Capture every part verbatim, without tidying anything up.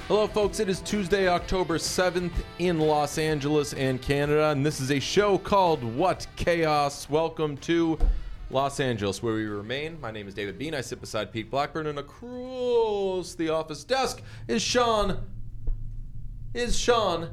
Hello, folks. It is Tuesday, October seventh in Los Angeles and Canada, and this is a show called What Chaos? Welcome to Los Angeles, where we remain. My name is David Bean. I sit beside Pete Blackburn, and across the office desk is Sean. Is Sean.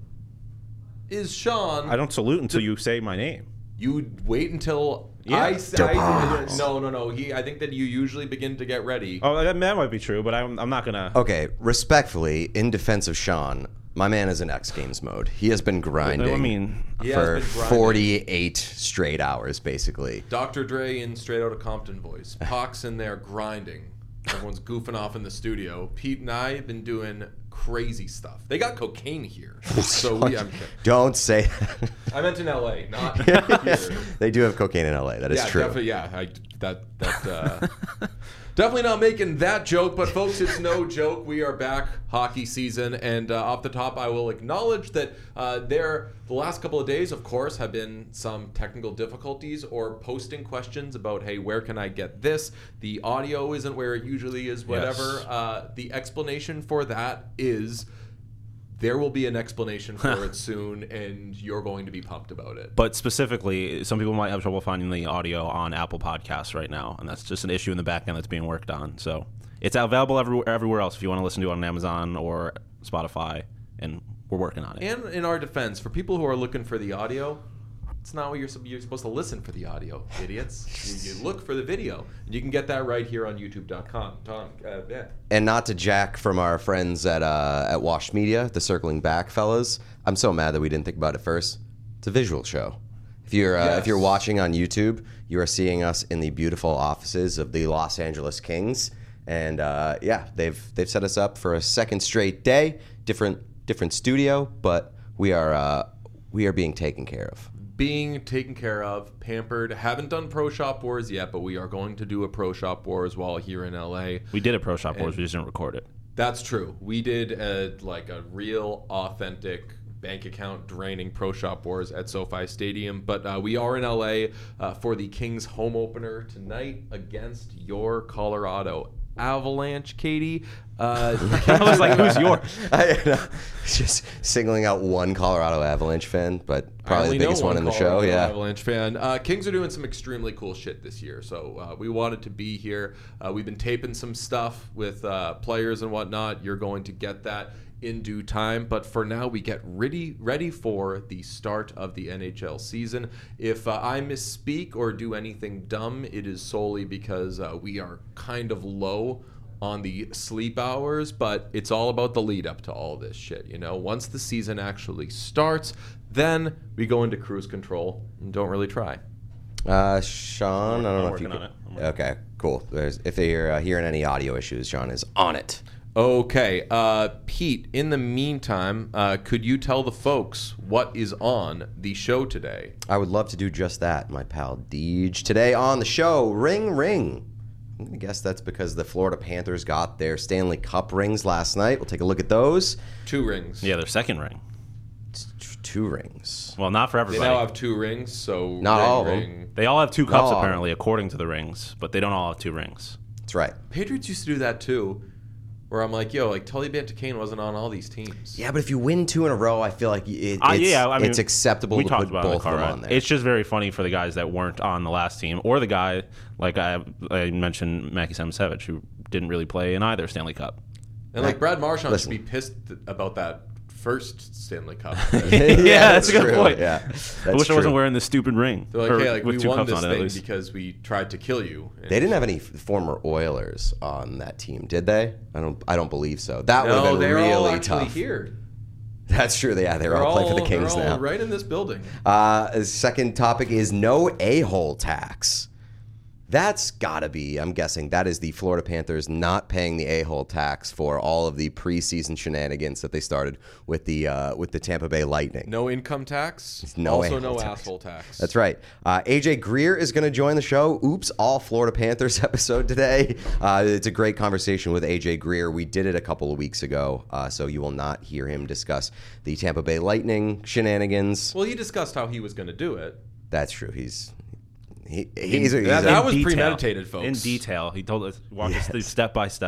Is Sean. I don't salute until you say my name. You wait until Yeah. I say. No, no, no. He. I think that you usually begin to get ready. Oh, that, that might be true, but I'm, I'm not gonna. Okay, respectfully, in defense of Sean, my man is in X Games mode. He has been grinding I mean, He has for been grinding. forty-eight straight hours, basically. Doctor Dre in Straight Outta Compton voice. Pac's in there grinding. Everyone's goofing off in the studio. Pete and I have been doing crazy stuff. They got cocaine here. So we, I'm, Don't say that. I meant in L A, not here. They do have cocaine in L A. That is yeah, true. Definitely, yeah, I, that that uh, definitely not making that joke, but folks, it's no joke. We are back, hockey season, and uh, off the top, I will acknowledge that uh, there the last couple of days, of course, have been some technical difficulties or posting questions about, hey, where can I get this? The audio isn't where it usually is. Whatever. Yes. Uh, the explanation for that is. There will be an explanation for it soon, and you're going to be pumped about it. but specifically, some people might have trouble finding the audio on Apple Podcasts right now, and that's just an issue in the back end that's being worked on. So it's available everywhere, everywhere else if you want to listen to it on Amazon or Spotify, and we're working on it. And in our defense, for people who are looking for the audio, it's not what you're, you're supposed to listen for the audio, idiots. you, you look for the video. And you can get that right here on YouTube dot com. Tom, uh, yeah. And not to jack from our friends at uh, at Wash Media, the circling back fellas. I'm so mad that we didn't think about it first. It's a visual show. If you're uh, Yes. if you're watching on YouTube, you are seeing us in the beautiful offices of the Los Angeles Kings, and uh, yeah, they've they've set us up for a second straight day. Different different studio, but we are uh, we are being taken care of. Being taken care of, pampered. Haven't done Pro Shop Wars yet, but we are going to do a Pro Shop Wars while here in L A. We did a Pro Shop Wars, And- we just didn't record it. That's true. We did a, like a real, authentic bank account draining Pro Shop Wars at SoFi Stadium. But uh, we are in L A uh, for the Kings home opener tonight against your Colorado Avalanche, Katie. Uh, I was like, who's yours? I know. Just singling out one Colorado Avalanche fan, but I probably only the biggest know one in the Colorado show. Yeah. Avalanche fan. Uh, Kings are doing some extremely cool shit this year, so uh, we wanted to be here. Uh, we've been taping some stuff with uh, players and whatnot. You're going to get that in due time, but for now, we get ready ready for the start of the N H L season. If uh, I misspeak or do anything dumb, it is solely because uh, we are kind of low on the sleep hours, but it's all about the lead up to all this shit, you know? Once the season actually starts, then we go into cruise control and don't really try. Uh, Sean, I don't I'm know if you working can... on it. I'm working Okay, cool. There's, if you're uh, hearing any audio issues, Sean is on it. Okay, uh, Pete, in the meantime, uh, could you tell the folks what is on the show today? I would love to do just that, my pal Deej. Today on the show, Ring Ring. I'm going to guess that's because the Florida Panthers got their Stanley Cup rings last night. We'll take a look at those. Two rings. Yeah, their second ring. T- Two rings. Well, not for They everybody. now have two rings, so Not ring, all of them. ring. They all have two cups, No. apparently, according to the rings, but they don't all have two rings. That's right. Patriots used to do that too, where I'm like, yo, like Tully Bantakane wasn't on all these teams. Yeah, but if you win two in a row, I feel like it, Uh, it's, yeah, I mean, it's acceptable we to talked put about it in the both car of them ride. on there. It's just very funny for the guys that weren't on the last team, or the guy like I, I mentioned, Mackie Samusevich, who didn't really play in either Stanley Cup. And like Brad Marchand Listen. should be pissed about that first Stanley Cup. Yeah, that's a good true. point. Yeah, I that's wish I true. wasn't wearing this stupid ring. They're like, Or hey, like with we two won cups this on it, at thing least. because we tried to kill you. And They didn't have any former Oilers on that team, did they? I don't. I don't believe so. That would No, have been they're really all actually tough. here. That's true. Yeah, they're, They're all playing for the all- Kings they're all now. right in this building. Uh, the second topic is no a-hole tax. That's gotta be, I'm guessing, that is the Florida Panthers not paying the a-hole tax for all of the preseason shenanigans that they started with the uh, with the Tampa Bay Lightning. No income tax. No also, a-hole no tax. asshole tax. That's right. Uh, A J Greer is going to join the show. Oops, all Florida Panthers episode today. Uh, it's a great conversation with A J Greer. We did it a couple of weeks ago, uh, so you will not hear him discuss the Tampa Bay Lightning shenanigans. Well, he discussed how he was going to do it. That's true. He's he, he's, a, he's that- a- that was detail. premeditated, folks. In detail, he told us, walked us through step by step.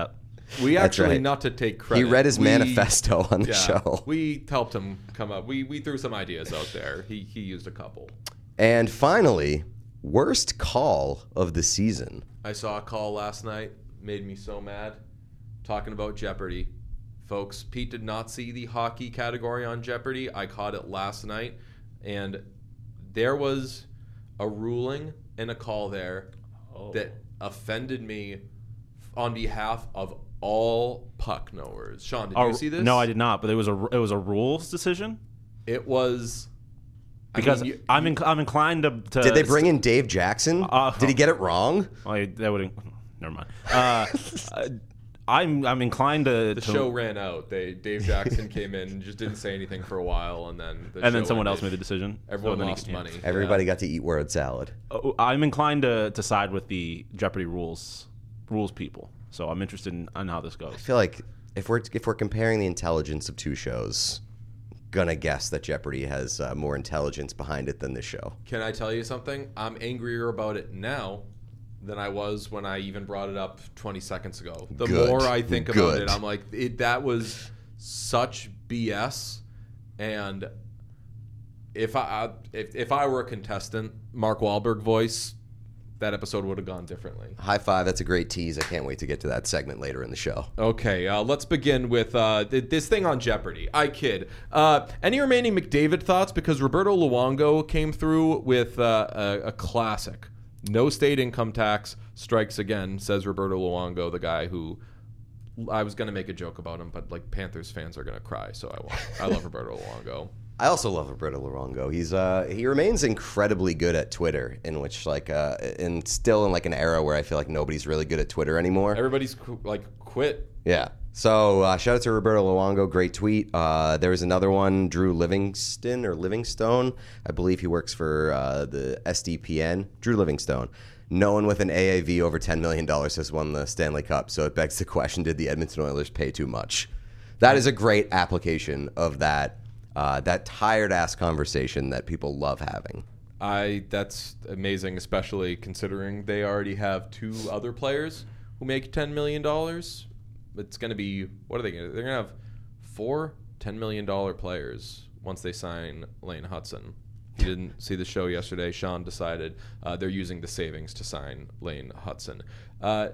We That's actually, right. not to take credit. He read his we, manifesto on the yeah, show. We helped him come up. We we threw some ideas out there. He he used a couple. And finally, worst call of the season. I saw a call last night. Made me so mad. Talking about Jeopardy. Folks, Pete did not see the hockey category on Jeopardy. I caught it last night. And there was a ruling and a call there Oh. that offended me on behalf of all puck knowers. Sean, did Oh, you see this? No, I did not. But it was a it was a rules decision It was I because mean, you- I'm inc- I'm inclined to, to. Did they bring in Dave Jackson? Uh, Did he get it wrong? I, that would. Never mind. Uh, uh, I'm I'm inclined to. the to, show ran out. They Dave Jackson came in and just didn't say anything for a while, and then the and then show someone else ended. made the decision. Everyone So then he- lost yeah. money. Everybody Yeah. got to eat word salad. Oh, I'm inclined to, to side with the Jeopardy rules rules people. So I'm interested in, in how this goes. I feel like if we're if we're comparing the intelligence of two shows, gonna guess that Jeopardy has uh, more intelligence behind it than this show. Can I tell you something? I'm angrier about it now than I was when I even brought it up twenty seconds ago. The Good. more I think about Good. it, I'm like, it, that was such B S. And if I if, if I were a contestant, Mark Wahlberg voice, that episode would have gone differently. High five. That's a great tease. I can't wait to get to that segment later in the show. Okay, uh, let's begin with uh, th- this thing on Jeopardy. I kid. Uh, any remaining McDavid thoughts? Because Roberto Luongo came through with uh, a, a classic. No state income tax strikes again, says Roberto Luongo, the guy who I was going to make a joke about him, but like Panthers fans are going to cry, so I won't. I love Roberto Luongo. I also love Roberto Luongo. He's uh he remains incredibly good at Twitter, in which like uh and still in like an era where I feel like nobody's really good at Twitter anymore. Everybody's qu- like quit. Yeah. So uh, shout out to Roberto Luongo. Great tweet. Uh, there was another one, Drew Livingston or Livingstone. I believe he works for uh, the S D P N. Drew Livingstone. No one with an A A V over ten million dollars has won the Stanley Cup. So it begs the question, did the Edmonton Oilers pay too much? That is a great application of that uh, that tired-ass conversation that people love having. I that's amazing, especially considering they already have two other players who make ten million dollars. It's going to be, what are they going to, they're going to have four ten million dollars players once they sign Lane Hudson. You didn't see the show yesterday. Sean decided uh, they're using the savings to sign Lane Hudson. Uh,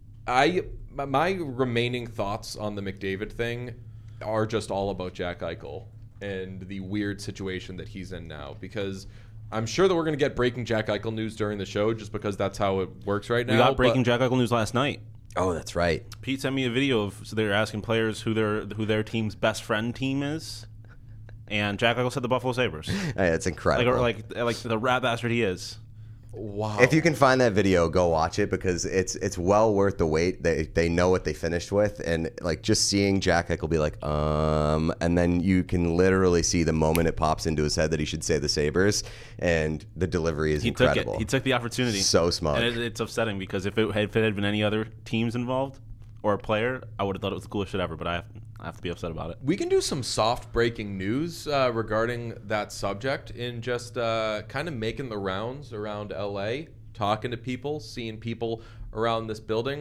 I my- my remaining thoughts on the McDavid thing are just all about Jack Eichel and the weird situation that he's in now, because I'm sure that we're going to get breaking Jack Eichel news during the show just because that's how it works right now. We got breaking but- Jack Eichel news last night. Oh, that's right. Pete sent me a video of so they're asking players who their who their team's best friend team is, and Jack Eichel said the Buffalo Sabres. Hey, it's Like incredible. like like the rat bastard he is. Wow. If you can find that video, go watch it because it's it's well worth the wait. They they know what they finished with, and like just seeing Jack Eichel be like, um, and then you can literally see the moment it pops into his head that he should say the Sabres, and the delivery is He incredible. took it. He took the opportunity. So smart. And it, it's upsetting because if it, had, if it had been any other teams involved or a player, I would have thought it was the coolest shit ever. But I have, I have to be upset about it. We can do some soft breaking news uh, regarding that subject in just uh, kind of making the rounds around L A, talking to people, seeing people around this building.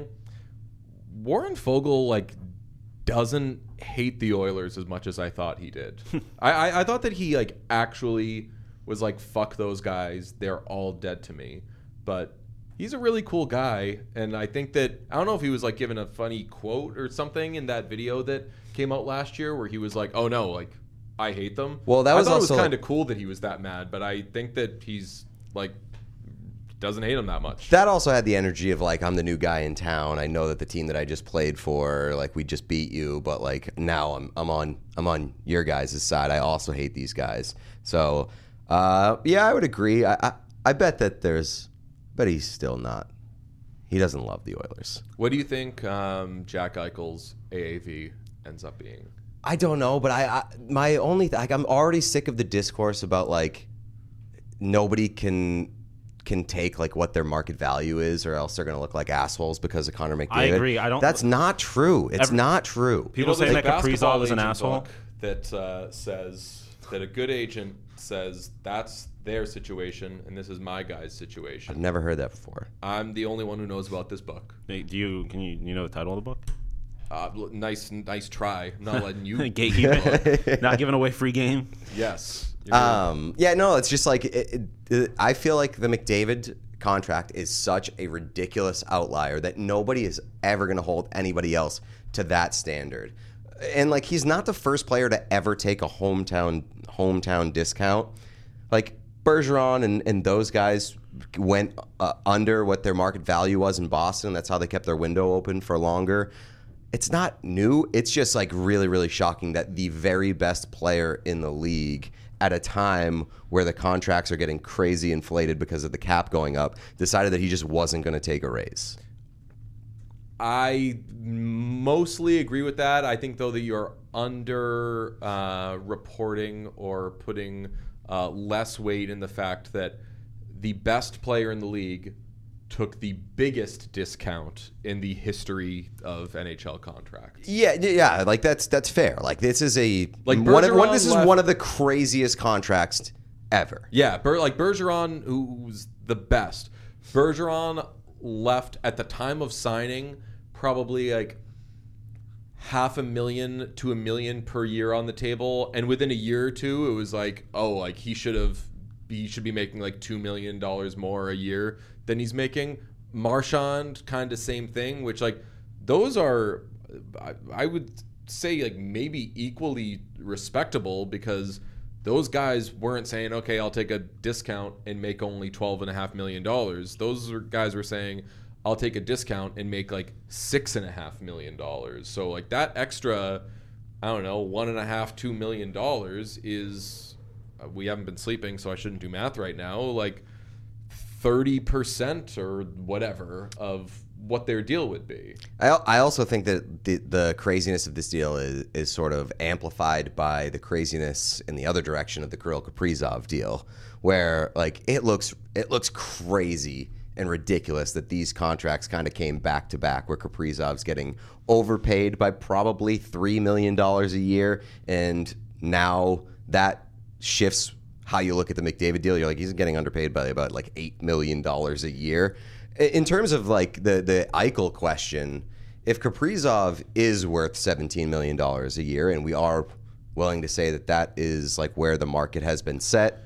Warren Fogle like doesn't hate the Oilers as much as I thought he did. I, I, I thought that he like actually was like, fuck those guys, they're all dead to me. But he's a really cool guy, and I think that I don't know if he was like given a funny quote or something in that video that came out last year where he was like, "Oh no, like I hate them." Well, that I was thought also- it was kind of cool that he was that mad, but I think that he's like doesn't hate him that much. That also had the energy of like, I'm the new guy in town. I know that the team that I just played for, like we just beat you, but like now I'm I'm on I'm on your guys' side. I also hate these guys. So uh, yeah, I would agree. I, I I bet that there's, but he's still not. He doesn't love the Oilers. What do you think um, Jack Eichel's A A V ends up being? I don't know, but I, I my only th- like I'm already sick of the discourse about like nobody can can take like what their market value is, or else they're going to look like assholes because of Connor McDavid. I agree. I don't- That's not true. It's Every- not true. People You know, say there's that a basketball Kaprizov is an agent asshole. book that uh, says that a good agent says that's their situation and this is my guy's I've situation. never heard that before. I'm the only one who knows about this book. Hey, do you can you you know the title of the book? Uh, nice, nice try. I'm not letting you Gatekeeper, not giving away free game. Yes. Um, yeah, no, it's just like it, it, it, I feel like the McDavid contract is such a ridiculous outlier that nobody is ever going to hold anybody else to that standard. And like he's not the first player to ever take a hometown hometown discount. Like Bergeron and, and those guys went uh, under what their market value was in Boston. That's how they kept their window open for longer. It's not new. It's just like really, really shocking that the very best player in the league at a time where the contracts are getting crazy inflated because of the cap going up, decided that he just wasn't going to take a raise. I mostly agree with that. I think, though, that you're under uh, reporting or putting uh, less weight in the fact that the best player in the league took the biggest discount in the history of N H L contracts. Yeah, yeah, like that's that's fair. Like this is a like one of, one, Bergeron this is left- one of the craziest contracts ever. Yeah, Ber- like Bergeron, who's the best. Bergeron left at the time of signing probably like half a million to a million per year on the table, and within a year or two, it was like, oh, like he should have, he should be making like two million dollars more a year than he's making. Marchand, kind of same thing, which like those are, I, I would say like maybe equally respectable because those guys weren't saying, okay, I'll take a discount and make only twelve and a half million dollars. Those are guys were saying, I'll take a discount and make like six and a half million dollars. So like that extra, I don't know, one and a half, two million dollars is, uh, we haven't been sleeping, so I shouldn't do math right now. Like thirty percent or whatever of what their deal would be. I, I also think that the, the craziness of this deal is, is sort of amplified by the craziness in the other direction of the Kirill Kaprizov deal, where like it looks it looks crazy and ridiculous that these contracts kind of came back to back, where Kaprizov's getting overpaid by probably three million dollars a year, and now that shifts how you look at the McDavid deal. You're like, he's getting underpaid by about like eight million dollars a year. In terms of like the, the Eichel question, if Kaprizov is worth seventeen million dollars a year, and we are willing to say that that is like where the market has been set,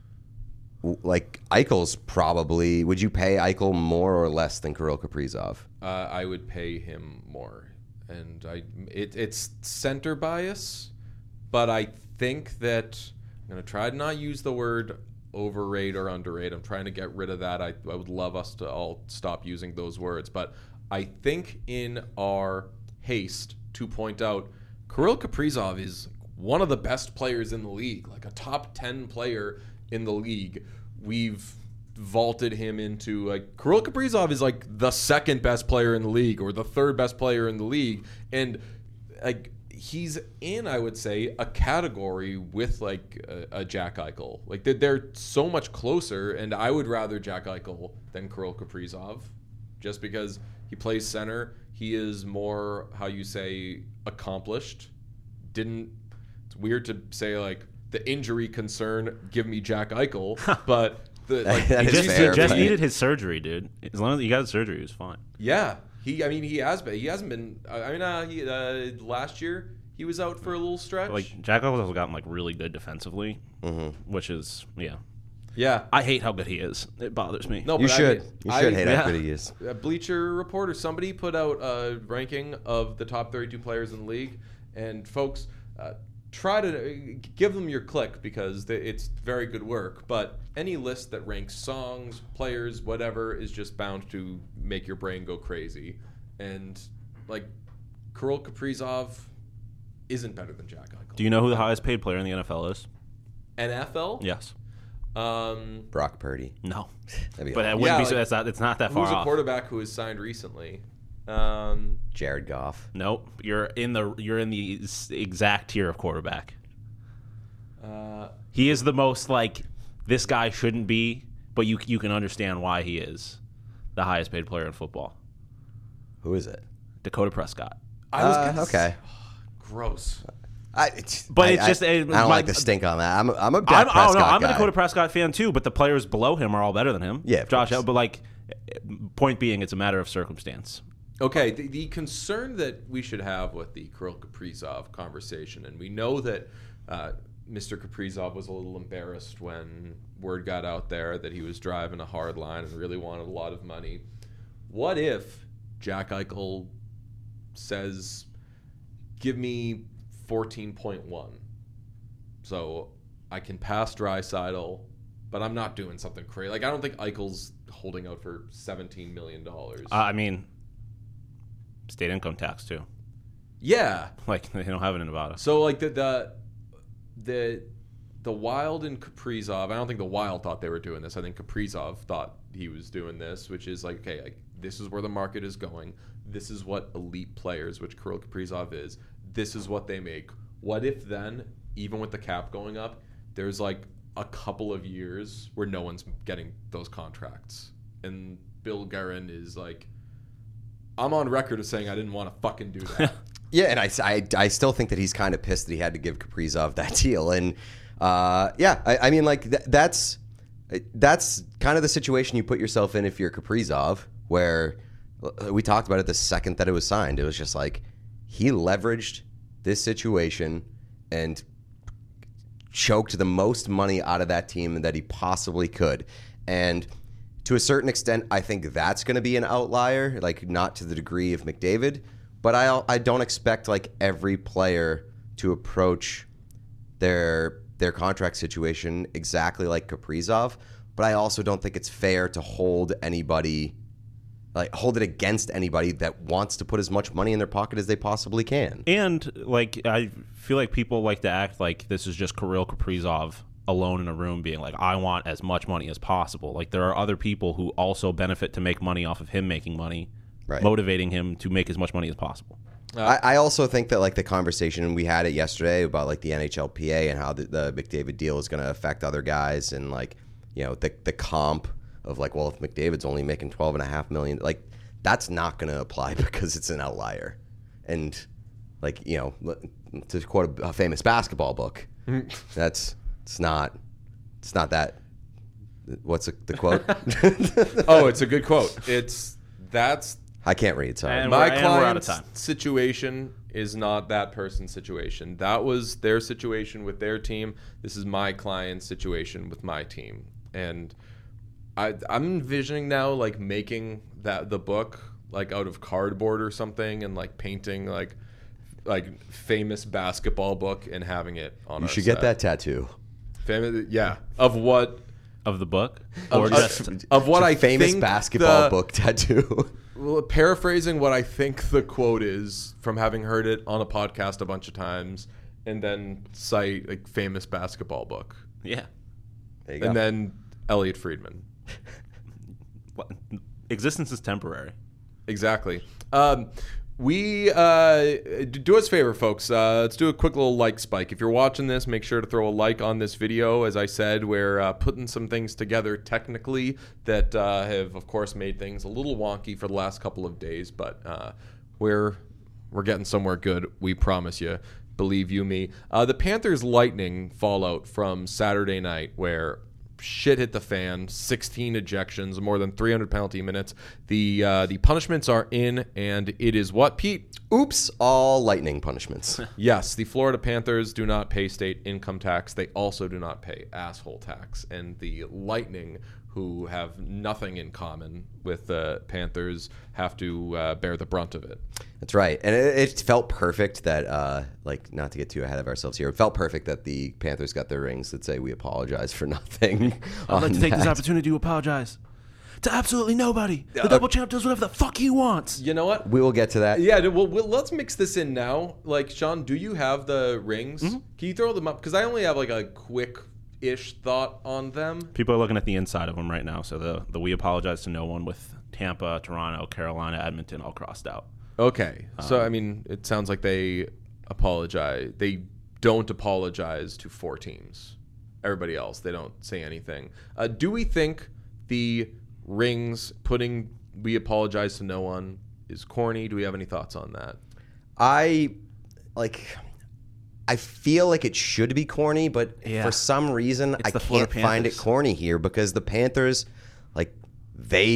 like Eichel's probably, would you pay Eichel more or less than Kirill Kaprizov? Uh, I would pay him more. And I it, it's center bias, but I think that I'm going to try to not use the word overrate or underrate. I'm trying to get rid of that. I, I would love us to all stop using those words. But I think in our haste to point out, Kirill Kaprizov is one of the best players in the league, like a top ten player in the league. We've vaulted him into like Kirill Kaprizov is like the second best player in the league or the third best player in the league. And like he's in, I would say, a category with like a, a Jack Eichel. Like they're, they're so much closer, and I would rather Jack Eichel than Kirill Kaprizov, just because he plays center. He is more, how you say, accomplished. Didn't. It's weird to say like the injury concern. Give me Jack Eichel, but the like That He is just, fair, he just but- needed his surgery, dude. As long as he got his surgery, he was fine. yeah. He, I mean, he has been. He hasn't been. I mean, uh, he, uh, last year he was out for a little stretch. Like Jack Eichel has gotten like really good defensively, Mm-hmm. which is yeah. yeah. I hate how good he is. It bothers me. No, You but should. I mean, you should I- hate yeah. how good he is. A Bleacher Report or somebody put out a ranking of the top thirty-two players in the league, and folks, uh, try to give them your click because they, it's very good work. But any list that ranks songs, players, whatever, is just bound to make your brain go crazy. And like Kirill Kaprizov isn't better than Jack Eichel. Do you know who the highest paid player in the N F L is? N F L? Yes. Um, Brock Purdy. No. That'd be But awesome. it wouldn't Yeah, be. like, so that's not. It's not that far who's a off. quarterback who has signed recently? Um, Jared Goff. Nope. You're in the. You're in the s- exact tier of quarterback. uh, He is the most like this guy shouldn't be, but you you can understand why he is the highest paid player in football. Who is it? Dakota Prescott. I was Uh, gonna okay. gross. I, it's, But I- it's I- just- I, it- don't my- like the stink on that. I'm a, I'm a Dak I'm, oh, Prescott no, I'm a guy. Dakota Prescott fan too, but the players below him are all better than him. Yeah, of Josh. course. But like, point being, it's a matter of circumstance. Okay, the, the concern that we should have with the Kirill Kaprizov conversation, and we know that uh, Mister Kaprizov was a little embarrassed when word got out there that he was driving a hard line and really wanted a lot of money. What if Jack Eichel says, give me fourteen point one, so I can pass Draisaitl, but I'm not doing something crazy. Like, I don't think Eichel's holding out for seventeen million dollars. Uh, I mean, state income tax too. Yeah. Like, they don't have it in Nevada. So, like, the the the, the Wild and Kaprizov, I don't think the Wild thought they were doing this. I think Kaprizov thought he was doing this, which is like, okay, like, this is where the market is going. This is what elite players, which Kirill Kaprizov is, this is what they make. What if then, even with the cap going up, there's like a couple of years where no one's getting those contracts? And Bill Guerin is like, I'm on record as saying I didn't want to fucking do that. Yeah, and I, I, I still think that he's kind of pissed that he had to give Kaprizov that deal. And uh, yeah, I, I mean, like, th- that's that's kind of the situation you put yourself in if you're Kaprizov, where we talked about it the second that it was signed. It was just like he leveraged this situation and choked the most money out of that team that he possibly could. And to a certain extent, I think that's going to be an outlier, like not to the degree of McDavid, but I I don't expect like every player to approach their their contract situation exactly like Kaprizov, but I also don't think it's fair to hold anybody like hold it against anybody that wants to put as much money in their pocket as they possibly can. And like, I feel like people like to act like this is just Kirill Kaprizov alone in a room being like, I want as much money as possible. Like, there are other people who also benefit to make money off of him making money, Right. motivating him to make as much money as possible. Uh, I, I also think that like the conversation, and we had it yesterday about like the N H L P A and how the, the McDavid deal is going to affect other guys, and like, you know, the the comp of like, well, if McDavid's only making twelve and a half million, like that's not going to apply because it's an outlier. And like, you know, to quote a, a famous basketball book, that's it's not it's not that. What's the, the quote? oh, it's a good quote. It's that's I can't read. Sorry. And my we're- and we're out of client's time. situation is not that person's situation. That was their situation with their team. This is my client's situation with my team. And I, I'm envisioning now like making that the book like out of cardboard or something, and like painting like like famous basketball book and having it on. You our should get set. that tattoo. Famous, yeah, of what Of the book? Of- Or of- just of what I famous think basketball the- book tattoo. Well, paraphrasing what I think the quote is from having heard it on a podcast a bunch of times, and then cite like famous basketball book, yeah. There you and go. then Elliot Friedman. What- Existence is temporary. Exactly. Um, we uh, do us a favor, folks. Uh, let's do a quick little like spike. If you're watching this, make sure to throw a like on this video. As I said, we're uh, putting some things together technically that uh, have, of course, made things a little wonky for the last couple of days, but uh, we're we're getting somewhere good. We promise you. Believe you me. Uh, the Panthers Lightning fallout from Saturday night, where shit hit the fan, sixteen ejections, more than three hundred penalty minutes. The uh, the punishments are in, and it is what, Pete? Oops, all lightning punishments. Yes, the Florida Panthers do not pay state income tax. They also do not pay asshole tax. And the Lightning, who have nothing in common with the Panthers, have to uh, bear the brunt of it. That's right. And it, it felt perfect that, uh, like, not to get too ahead of ourselves here, it felt perfect that the Panthers got their rings that say we apologize for nothing. I'd like to take this that. opportunity to apologize to absolutely nobody. The double champ does whatever the fuck he wants. You know what? We will get to that. Yeah, well, well, let's mix this in now. Like, Sean, do you have the rings? Mm-hmm. Can you throw them up? Because I only have, like, a quick-ish thought on them. People are looking at the inside of them right now. So the, the we apologize to no one with Tampa, Toronto, Carolina, Edmonton all crossed out. Okay. So, I mean, it sounds like they apologize. They don't apologize to four teams. Everybody else, they don't say anything. Uh, do we think the rings putting we apologize to no one is corny? Do we have any thoughts on that? I, like, I feel like it should be corny, but Yeah. for some reason, It's I the Florida can't find it Panthers. corny here because the Panthers, like, they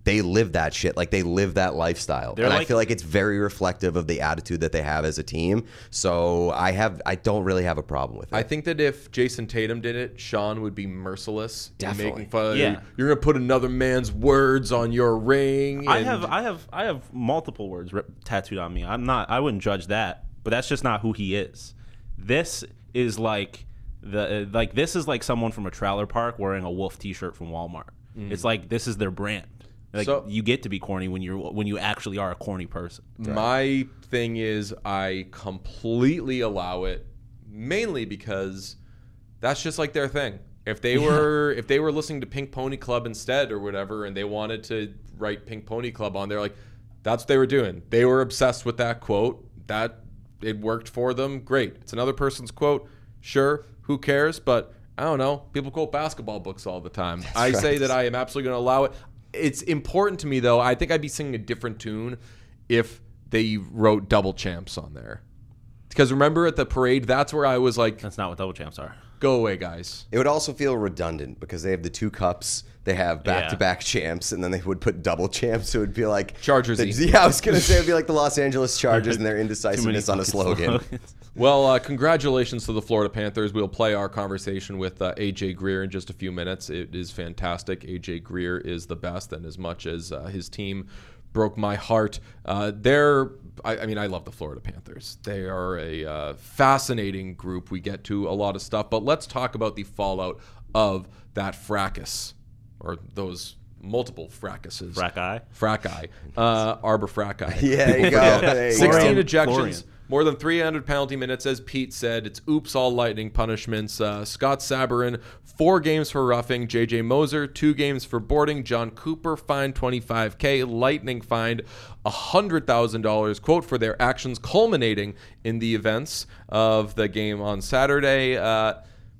they live that shit. Like, they live that lifestyle. They're and I like- feel like it's very reflective of the attitude that they have as a team. So I have, I don't really have a problem with it. I think that if Jason Tatum did it, Sean would be merciless in Definitely. making fun. Yeah. You're gonna put another man's words on your ring. I and- have I have I have multiple words rip, tattooed on me. I'm not I wouldn't judge that, but that's just not who he is. This is like the like this is like someone from a trailer park wearing a Wolf t-shirt from Walmart. It's like this is their brand. Like So- you get to be corny when you're when you actually are a corny person. My thing is, I completely allow it, mainly because that's just like their thing. If they were if they were listening to Pink Pony Club instead or whatever, and they wanted to write Pink Pony Club on there, like that's what they were doing. They were obsessed with that quote. That it worked for them. Great. It's another person's quote. Sure. Who cares? But I don't know. People quote basketball books all the time. I right. say that I am absolutely going to allow it. It's important to me, though. I think I'd be singing a different tune if they wrote double champs on there. Because remember at the parade, that's where I was like, That's not what double champs are. go away, guys. It would also feel redundant because they have the two cups. They have back-to-back champs, and then they would put double champs. So it would be like Chargers-y. the- Yeah, I was gonna say it'd be like the Los Angeles Chargers and their indecisiveness on a slogan. Well, uh, congratulations to the Florida Panthers. We'll play our conversation with uh, A J Greer in just a few minutes. It is fantastic. A J Greer is the best, and as much as uh, his team broke my heart, uh, they're, I, I mean, I love the Florida Panthers. They are a uh, fascinating group. We get to a lot of stuff, but let's talk about the fallout of that fracas, or those multiple fracases. Fracai. Fracai. Uh, Arbor Fracai. Yeah, there you go. There you sixteen go. ejections, Florian. more than three hundred penalty minutes, as Pete said. It's oops, all Lightning punishments. Uh, Scott Sabarin, four games for roughing. J J Moser, two games for boarding. John Cooper, fined twenty-five K. Lightning fined one hundred thousand dollars, quote, for their actions culminating in the events of the game on Saturday. Uh,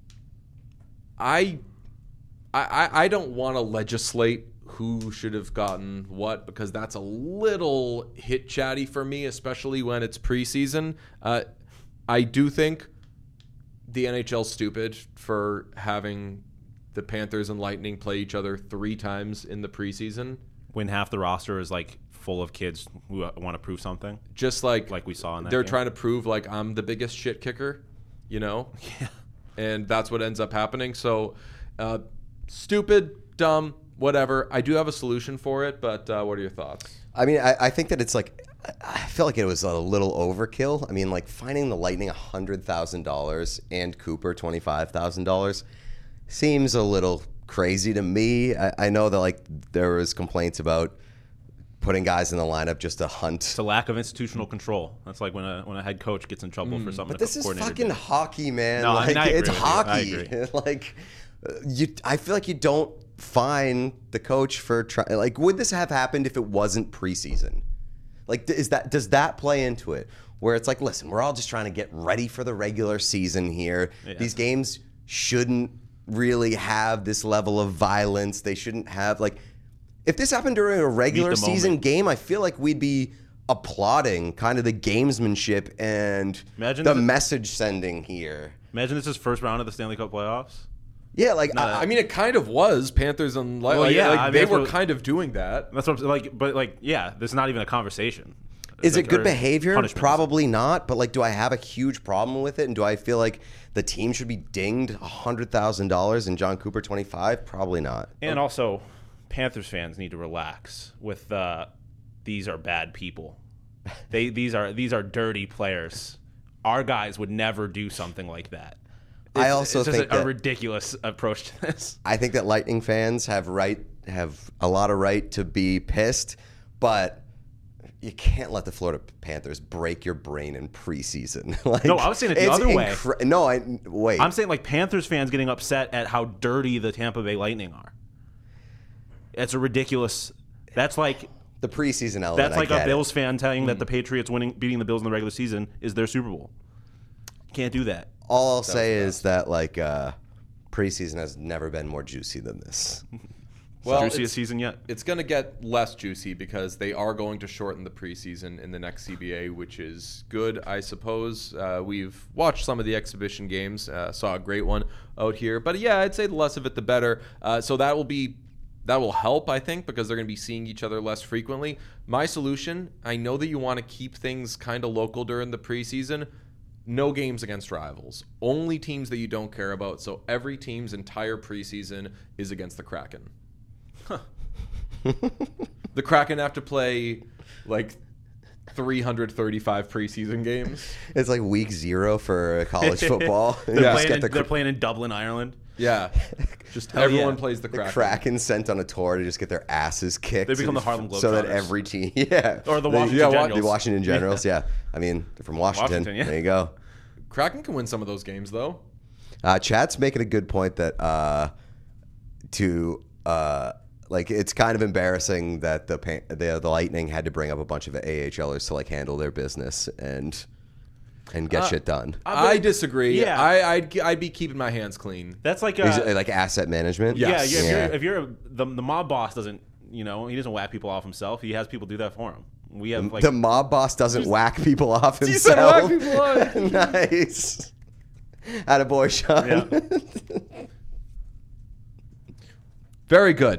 I, I, I don't want to legislate who should have gotten what, because that's a little hit chatty for me, especially when it's preseason. Uh, I do think the N H L's stupid for having the Panthers and Lightning play each other three times in the preseason. When half the roster is like full of kids who want to prove something. Just like Like we saw in that they're game. trying to prove like I'm the biggest shit kicker, you know? Yeah. And that's what ends up happening. So uh, stupid, dumb, whatever. I do have a solution for it, but uh, what are your thoughts? I mean, I, I think that it's like, I feel like it was a little overkill. I mean, like finding the Lightning one hundred thousand dollars and Cooper twenty-five thousand dollars seems a little crazy to me. I, I know that like there was complaints about putting guys in the lineup just to hunt. It's a lack of institutional control. That's like when a when a head coach gets in trouble for something. But this a is coordinator fucking did. hockey, man. No, I like, mean, I agree it's with you. I hockey. agree. like, uh, you, I feel like you don't fine the coach for try. Like, would this have happened if it wasn't preseason? Like, is that does that play into it? Where it's like, listen, we're all just trying to get ready for the regular season here. Yeah. These games shouldn't really have this level of violence. They shouldn't have like. If this happened during a regular the season moment. game, I feel like we'd be applauding kind of the gamesmanship and Imagine the the- message sending here. Imagine this is first round of the Stanley Cup playoffs. Yeah, like Not I, I mean, it kind of was Panthers and Light. Well, like, yeah, like, I mean, they that's were what- kind of doing that. That's what I'm like. But like, yeah, there's not even a conversation. is Like, it good or behavior? punishments. Probably not. But like, do I have a huge problem with it? And do I feel like the team should be dinged a hundred thousand dollars and John Cooper twenty five? Probably not. And also, Panthers fans need to relax with uh, these are bad people. They these are these are dirty players. Our guys would never do something like that. I It's- also it's just think a, a that- ridiculous approach to this. I think that Lightning fans have right have a lot of right to be pissed, but you can't let the Florida Panthers break your brain in preseason. like, No, I was saying it the it's other way. incre- No, I wait. I'm saying like Panthers fans getting upset at how dirty the Tampa Bay Lightning are. It's a ridiculous. That's like the preseason element. that's I like get a it. Bills fan telling that the Patriots winning beating the Bills in the regular season is their Super Bowl. Can't do that. All I'll say is that like uh, preseason has never been more juicy than this. Well, Juiciest it's- season yet. It's going to get less juicy because they are going to shorten the preseason in the next C B A, which is good, I suppose. Uh, we've watched some of the exhibition games, uh, saw a great one out here. But yeah, I'd say the less of it, the better. Uh, so that will be that will help, I think, because they're going to be seeing each other less frequently. My solution, I know that you want to keep things kind of local during the preseason. No games against rivals. Only teams that you don't care about. So every team's entire preseason is against the Kraken. Huh. The Kraken have to play like three hundred thirty-five preseason games. It's like week zero for college football. they're, Yeah. playing Get in, the, they're playing in Dublin, Ireland. Yeah. Just Hell everyone yeah. plays the the Kraken. Kraken sent on a tour to just get their asses kicked. They become the Harlem So that Globetrotters. every team, yeah. Or the They- Washington yeah, Generals. The Washington Generals, yeah. I mean, they're from Washington. Washington, yeah. There you go. Kraken can win some of those games, though. Uh, Chad's making a good point that uh, to uh, like it's kind of embarrassing that the, pa- the the Lightning had to bring up a bunch of AHLers to like handle their business and and get Uh, shit done. I disagree. Yeah. I, I'd, I'd be keeping my hands clean. That's like Is a, it, like asset management. Yes. yeah. yeah, if Yeah. you're, if you're a, the the mob boss doesn't, you know, he doesn't whack people off himself. He has people do that for him. We have like the mob boss doesn't whack people off You said himself. whack people off. Nice. Attaboy, Sean. Yeah. Very good.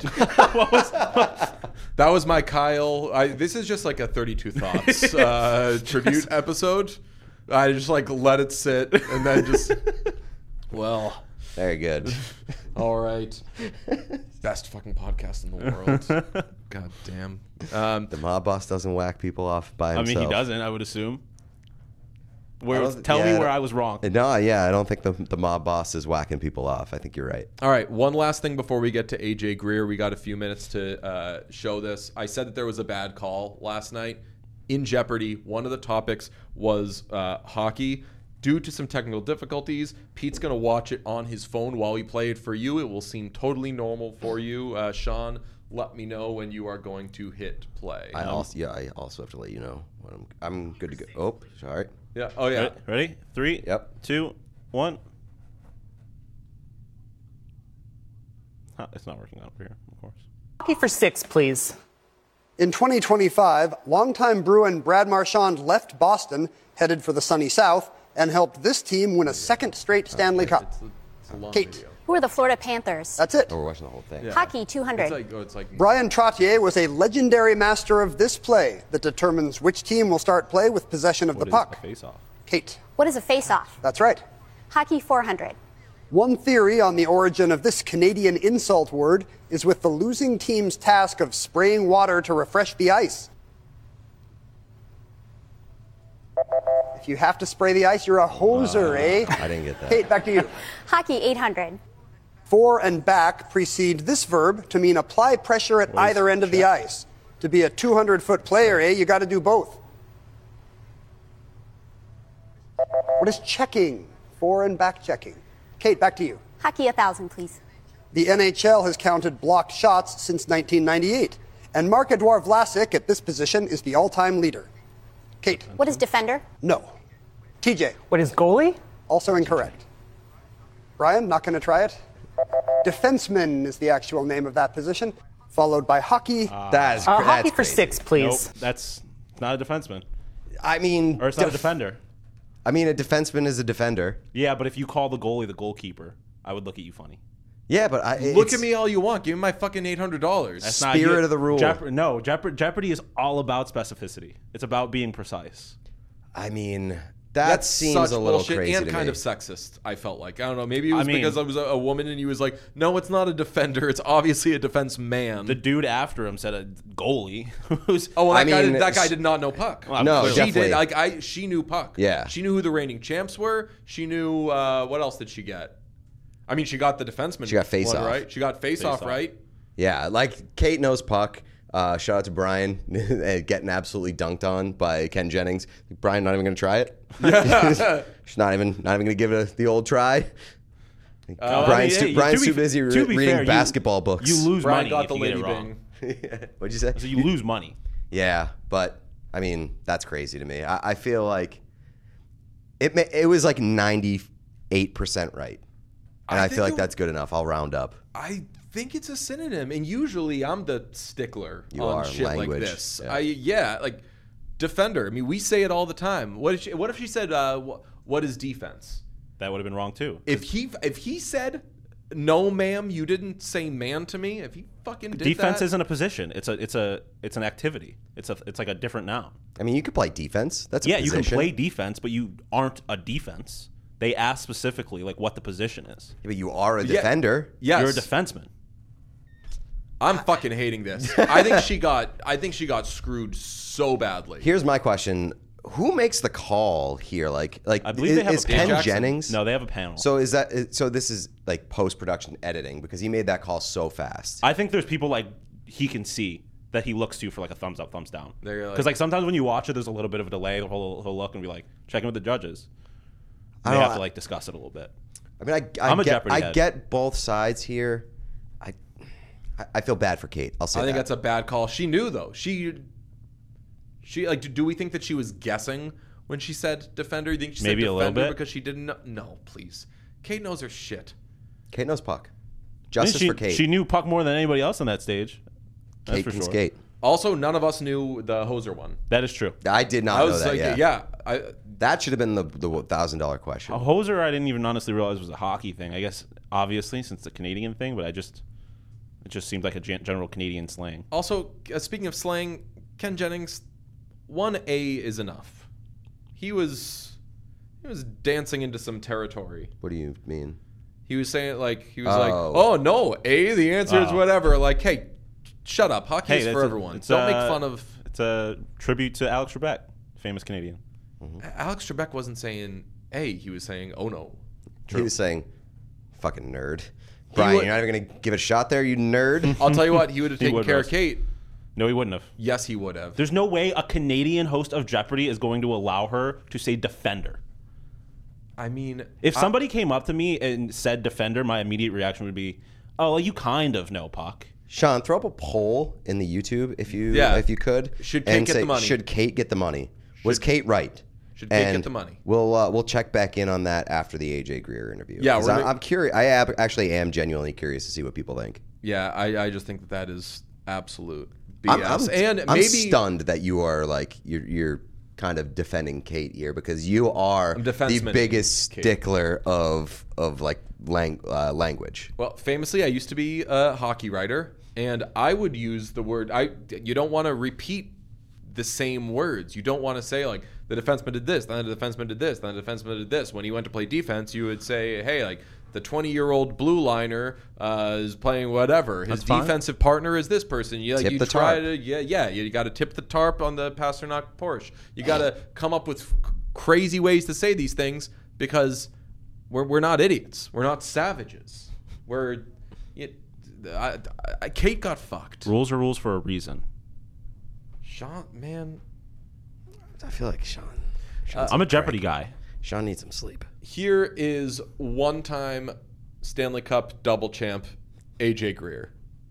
That was my Kyle. I, this is just like a thirty-two Thoughts uh, tribute episode. I just like let it sit and then just, well, Very good. all right. Best fucking podcast in the world. God damn. Um, The mob boss doesn't whack people off by I himself. mean, he doesn't. I would assume. Where, I don't- tell yeah, me I where don't- I was wrong. No, yeah, I don't think the the mob boss is whacking people off. I think you're right. All right, one last thing before we get to A J Greer. We got a few minutes to uh, show this. I said that there was a bad call last night. In Jeopardy, one of the topics was uh, hockey. Due to some technical difficulties, Pete's going to watch it on his phone while we play it for you. It will seem totally normal for you. Uh, Sean, let me know when you are going to hit play. I also yeah, I also have to let you know when I'm I'm good to go. Oh, sorry. yeah. Oh, yeah. Ready? Ready? Three, Yep. two, one. Huh, it's not working out over here, of course. Hockey for six, please. In twenty twenty-five, longtime Bruin Brad Marchand left Boston, headed for the sunny South, and helped this team win a second straight Stanley Cup. It's a, it's a long Kate. video. Who are the Florida Panthers? That's it. Oh, we're watching the whole thing. Yeah. Hockey two hundred. It's like, oh, it's like Brian Trottier was a legendary master of this play that determines which team will start play with possession of What the is puck. a face-off? Kate. What is a face-off? That's right. Hockey four hundred. One theory on the origin of this Canadian insult word is with the losing team's task of spraying water to refresh the ice. If you have to spray the ice, you're a hoser, eh? I didn't get that. Kate, back to you. Hockey eight hundred. For and back precede this verb to mean apply pressure at either end of the ice. To be a two hundred foot player, eh, you got to do both. What is checking? For and back checking. Kate, back to you. Hockey one thousand, please. The N H L has counted blocked shots since nineteen ninety-eight, and Marc-Edouard Vlasic at this position is the all-time leader. Kate, What is defender? no. T J, What is goalie? also incorrect. Brian, not going to try it? Defenseman is the actual name of that position, followed by hockey. That's, Uh, that's hockey for crazy. six, Nope, please. that's not a defenseman. I mean, Or it's not a def- defender. I mean, a defenseman is a defender. Yeah, but if you call the goalie the goalkeeper, I would look at you funny. Yeah, but I look it's- at me all you want. Give me my fucking eight hundred dollars. That's Spirit not, of the rule. Jeop- no, Jeop- Jeopardy is all about specificity. It's about being precise. I mean, that That seems such a little bullshit crazy and to kind me. of sexist. I felt like I don't know. Maybe it was I mean- because I was a, a woman and he was like, "No, it's not a defender. It's obviously a defense man." The dude after him said a goalie. Who's oh, well, that I guy mean, did, that guy s- did not know puck. Well, No, clearly. she definitely. did. Like I, she knew puck. Yeah. she knew who the reigning champs were. She knew uh, what else did she get? I mean, she got the defenseman. She got face one, off. right? She got face, off, off. right? Yeah, like Kate knows puck. Uh, shout out to Brian getting absolutely dunked on by Ken Jennings. Brian not even going to try it. She's not even not even going to give it a, the old try. Uh, Brian's I mean, too, hey, Brian's to too be- busy re- to be reading fair, you- basketball books. You lose Brian money got if the you get lady it wrong. bing. What'd you say? So you lose money. Yeah, but I mean that's crazy to me. I, I feel like it. ma- It was like ninety-eight percent right, and I I, think feel like it- that's good enough. I'll round up. I think it's a synonym, and usually I'm the stickler You on are, shit language, like this. yeah. I yeah, like defender. I mean, we say it all the time. What if she, what if she said, uh, wh- "What is defense?" That would have been wrong too. If he if he said no, ma'am, you didn't say man to me. If you fucking did Defense that, isn't a position. It's a it's a it's an activity. It's a it's like a different noun. I mean, you could play defense. That's a Yeah, you position. can play defense, but you aren't a defense. They ask specifically like what the position is. Yeah, but you are a Yeah. defender. yes, You're a defenseman. I'm fucking hating this. I think she got. I think she got screwed so badly. Here's my question: who makes the call here? Like, like I believe is, they have is a Ken panel. Jennings? No, they have a panel. So is that is- so? This is like post production editing because he made that call so fast. I think there's people like he can see that he looks to for like a thumbs up, thumbs down. They're like- Because like sometimes when you watch it, there's a little bit of a delay. He'll, he'll look and be like, checking with the judges. I They don't- have to like discuss it a little bit. I mean, I, I I'm a get, Jeopardy I head. get both sides here. I, I- I feel bad for Kate. I'll say I think that. that's a bad call. She knew though. She, she like. Do, do we think that she was guessing when she said defender? You think she Maybe said a little defender bit. because she didn't know? No, please. Kate knows her shit. Kate knows puck. I mean, Justice she, for Kate. She knew puck more than anybody else on that stage. That's Kate for can sure. skate. Also, none of us knew the Hoser one. That is true. I did not I know was that. like, yeah. yeah, I, That should have been the the thousand dollar question. A hoser, I didn't even honestly realize was a hockey thing. I guess obviously since the Canadian thing, but I just it just seemed like a gen- general Canadian slang. Also, uh, speaking of slang, Ken Jennings, one A is enough. He was he was dancing into some territory. What do you mean? He was saying like he was Oh. like, "Oh no, A. The answer is Oh. whatever." Like, hey, shut up. Hockey Hey, is that's for a- everyone. it's Don't a- make fun of. It's a tribute to Alex Trebek, famous Canadian. Alex Trebek wasn't saying A. He was saying, "Oh no." He was saying, "Fucking nerd." Brian, would- you're not even gonna give it a shot there, you nerd. I'll tell you what. He would have He taken would care roast. of Kate. No, he wouldn't have. Yes, he would have. There's no way a Canadian host of Jeopardy is going to allow her to say defender. I mean, If I- somebody came up to me and said defender, my immediate reaction would be, "Oh, well, you kind of know puck." Sean, throw up a poll in the YouTube if you Yeah. if you could. Should Kate and get say, the money? Should Kate get the money? Was Kate right? Should Kate get And the money? We'll uh, we'll check back in on that after the A J Greer interview. Yeah, 'Cause we're I, gonna- I'm curious. I ab- actually am genuinely curious to see what people think. yeah, I, I just think that that is absolute B I'm, S. I'm, and I'm maybe stunned that you are like you're you're kind of defending Kate here because you are I'm the defenseman, biggest Kate. stickler of of like lang- uh, language. Well, famously, I used to be a hockey writer, and I would use the word. I you don't want to repeat the same words. You don't want to say like the defenseman did this, then the defenseman did this, then the defenseman did this. When you went to play defense, you would say, hey, like the twenty-year-old blue liner uh, is playing whatever. His That's fine. defensive partner is this person. You like Tip you the try tarp. to yeah yeah you got to tip the tarp on the Pasternak Porsche. You got to come up with c- crazy ways to say these things because we're we're not idiots. We're not savages. We're it, I, I, Kate got fucked. Rules are rules for a reason. Sean, man, I feel like Sean. Uh, Sean's I'm a like Jeopardy cranky. guy. Sean needs some sleep. here is one-time Stanley Cup double champ A J Greer.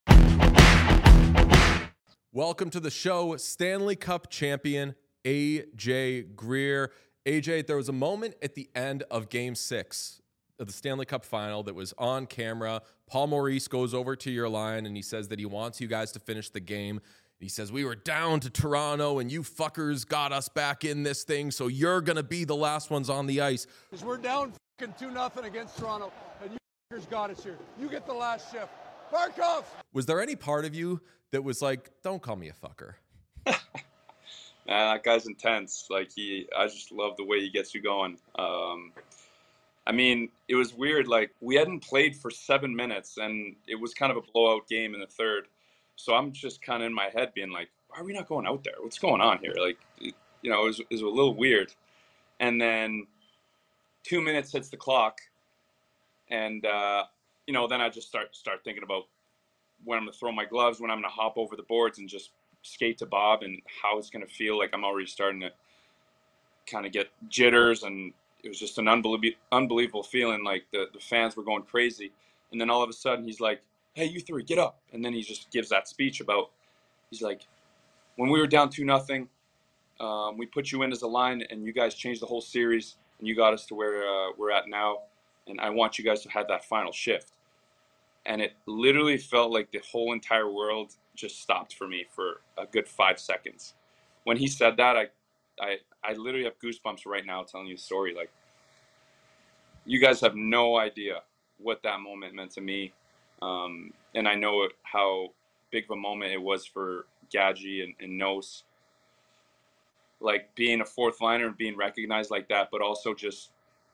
Welcome to the show, Stanley Cup champion A J Greer. A J, there was a moment at the end of Game Six of the Stanley Cup Final that was on camera. Paul Maurice goes over to your line and he says that he wants you guys to finish the game. He says, we were down to Toronto and you fuckers got us back in this thing, so you're going to be the last ones on the ice. Because we're down fucking two nothing against Toronto, and you fuckers got us here. You get the last shift. Barkov! Was there any part of you that was like, don't call me a fucker? Nah, that guy's intense. Like he, I just love the way he gets you going. Um, I mean, it was weird. Like we hadn't played for seven minutes, and it was kind of a blowout game in the third. So I'm just kind of in my head being like, why are we not going out there? What's going on here? Like, it, you know, it was, it was a little weird. And then two minutes hits the clock, and uh, you know, then I just start start thinking about when I'm gonna throw my gloves, when I'm gonna hop over the boards and just skate to Bob, and how it's gonna feel. Like I'm already starting to kind of get jitters, and it was just an unbelievable, unbelievable feeling. Like the, the fans were going crazy, and then all of a sudden he's like, "Hey, you three, get up!" And then he just gives that speech about, he's like, "When we were down two nothing, um, we put you in as a line, and you guys changed the whole series, and you got us to where uh, we're at now, and I want you guys to have that final shift." And it literally felt like the whole entire world just stopped for me for a good five seconds. When he said that, I, I, I literally have goosebumps right now telling you a story. Like, you guys have no idea what that moment meant to me. Um, and I know how big of a moment it was for Gadji and, and Nos. Like being a fourth liner and being recognized like that, but also just,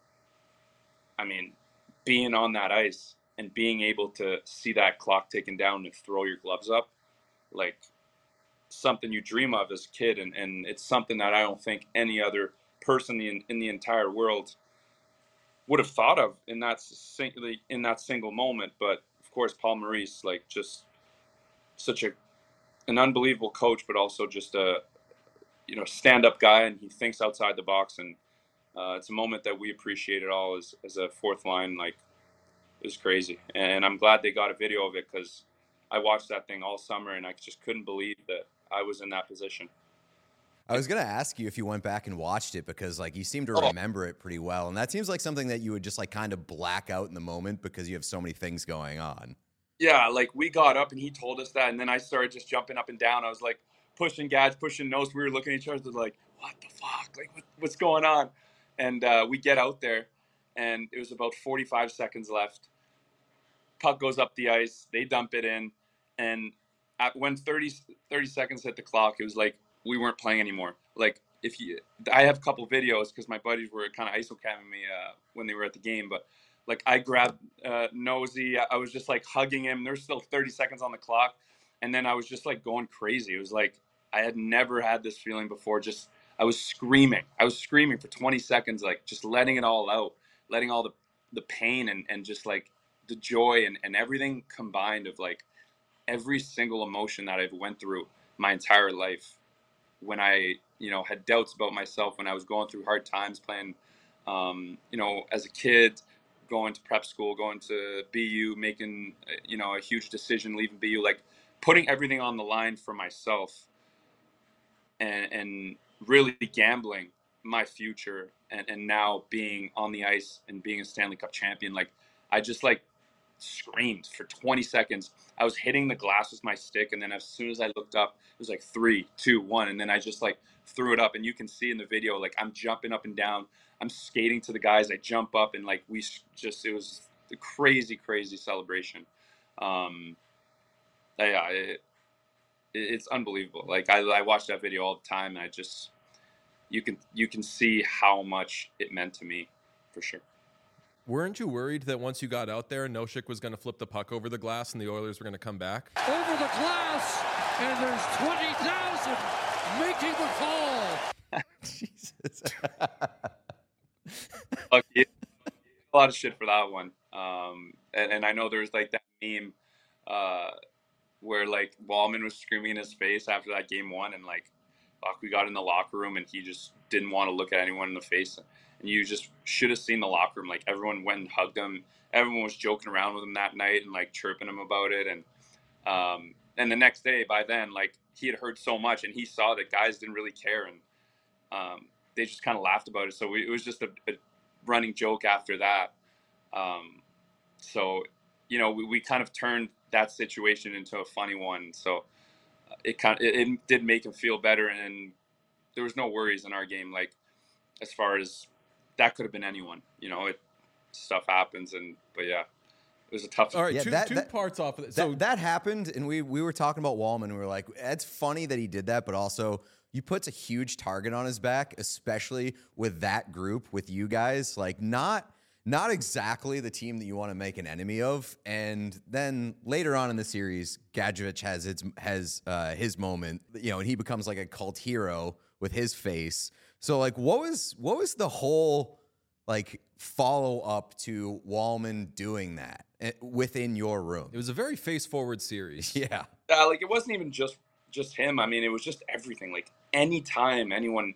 I mean, being on that ice and being able to see that clock ticking down and throw your gloves up, like something you dream of as a kid. And, and it's something that I don't think any other person in, in the entire world would have thought of in that in that single moment. But of course, Paul Maurice, like just such a an unbelievable coach, but also just a you know stand-up guy, and he thinks outside the box. And uh, it's a moment that we appreciate it all as as a fourth line. Like it was crazy, and I'm glad they got a video of it because I watched that thing all summer, and I just couldn't believe that I was in that position. I was going to ask you if you went back and watched it because like you seem to remember it pretty well. And that seems like something that you would just like kind of black out in the moment because you have so many things going on. Yeah. Like we got up and he told us that. And then I started just jumping up and down. I was like pushing Gads, pushing Nos. We were looking at each other like, what the fuck? Like what, what's going on? And uh, we get out there and it was about forty-five seconds left. Puck goes up the ice. They dump it in. And at when thirty, thirty seconds hit the clock, it was like, we weren't playing anymore. Like if you, I have a couple videos because my buddies were kind of I S O camming me uh, when they were at the game. But like I grabbed uh, Nosy, I was just like hugging him. There's still thirty seconds on the clock, and then I was just like going crazy. It was like I had never had this feeling before. Just I was screaming. I was screaming for twenty seconds, like just letting it all out, letting all the the pain and and just like the joy and and everything combined of like every single emotion that I've went through my entire life. When I, you know, had doubts about myself, when I was going through hard times playing, um, you know, as a kid, going to prep school, going to B U, making, you know, a huge decision, leaving B U, like putting everything on the line for myself and, and really gambling my future. And, and now being on the ice and being a Stanley Cup champion, like I just like screamed for twenty seconds. I was hitting the glass with my stick, and then as soon as I looked up, it was like three, two, one, and then I just like threw it up. And you can see in the video, like I'm jumping up and down, I'm skating to the guys, I jump up, and like we just it was a crazy, crazy celebration. Um, yeah, it, it's unbelievable. Like I, I watch that video all the time, and I just you can you can see how much it meant to me, for sure. Weren't you worried that once you got out there, Nosek was going to flip the puck over the glass and the Oilers were going to come back? Over the glass, and there's twenty thousand making the call. Jesus. Look, a lot of shit for that one. Um, and, and I know there's like that meme uh, where like Walman was screaming in his face after that game one, and like, fuck, we got in the locker room and he just didn't want to look at anyone in the face. And you just should have seen the locker room. Like everyone went and hugged him. Everyone was joking around with him that night and like chirping him about it. And um, and the next day, by then, like he had heard so much, and he saw that guys didn't really care, and um, they just kind of laughed about it. So we, it was just a, a running joke after that. Um, so you know, we, we kind of turned that situation into a funny one. So it kind of, it, it did make him feel better, and there was no worries in our game. Like as far as that could have been anyone, you know, it stuff happens. And, but yeah, it was a tough. All right. Yeah, two that, two that, parts off of it. That, So that happened. And we, we were talking about Walman. And we were like, it's funny that he did that, but also you put a huge target on his back, especially with that group, with you guys, like not, not exactly the team that you want to make an enemy of. And then later on in the series, Gadjevich has his, has uh, his moment, you know, and he becomes like a cult hero with his face. So like, what was, what was the whole like follow up to Walman doing that within your room? it was a very face forward series. Yeah. Uh, like it wasn't even just, just him. I mean, it was just everything. Like anytime anyone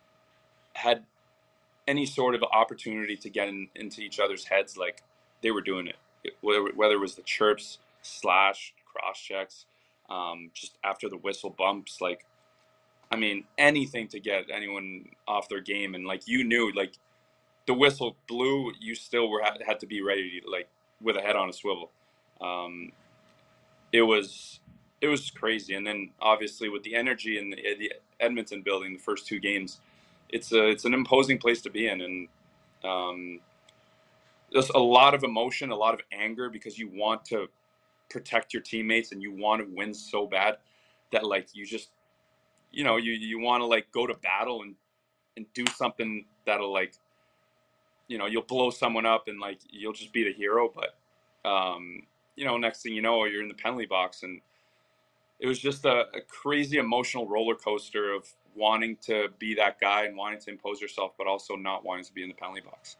had any sort of opportunity to get in, into each other's heads, like they were doing it. it whether, whether it was the chirps, slash, cross checks, um, just after the whistle bumps, like, I mean, anything to get anyone off their game. And like, you knew, like the whistle blew, you still were had, had to be ready to, like with a head on a swivel. Um, it was, it was crazy. And then obviously with the energy in the, the Edmonton building, the first two games, it's a, it's an imposing place to be in. And um, there's a lot of emotion, a lot of anger, because you want to protect your teammates and you want to win so bad that like you just, you know, you, you want to like go to battle and, and do something that'll like, you know, you'll blow someone up and like, you'll just be the hero. But, um, you know, next thing you know, you're in the penalty box, and it was just a, a crazy emotional roller coaster of wanting to be that guy and wanting to impose yourself, but also not wanting to be in the penalty box.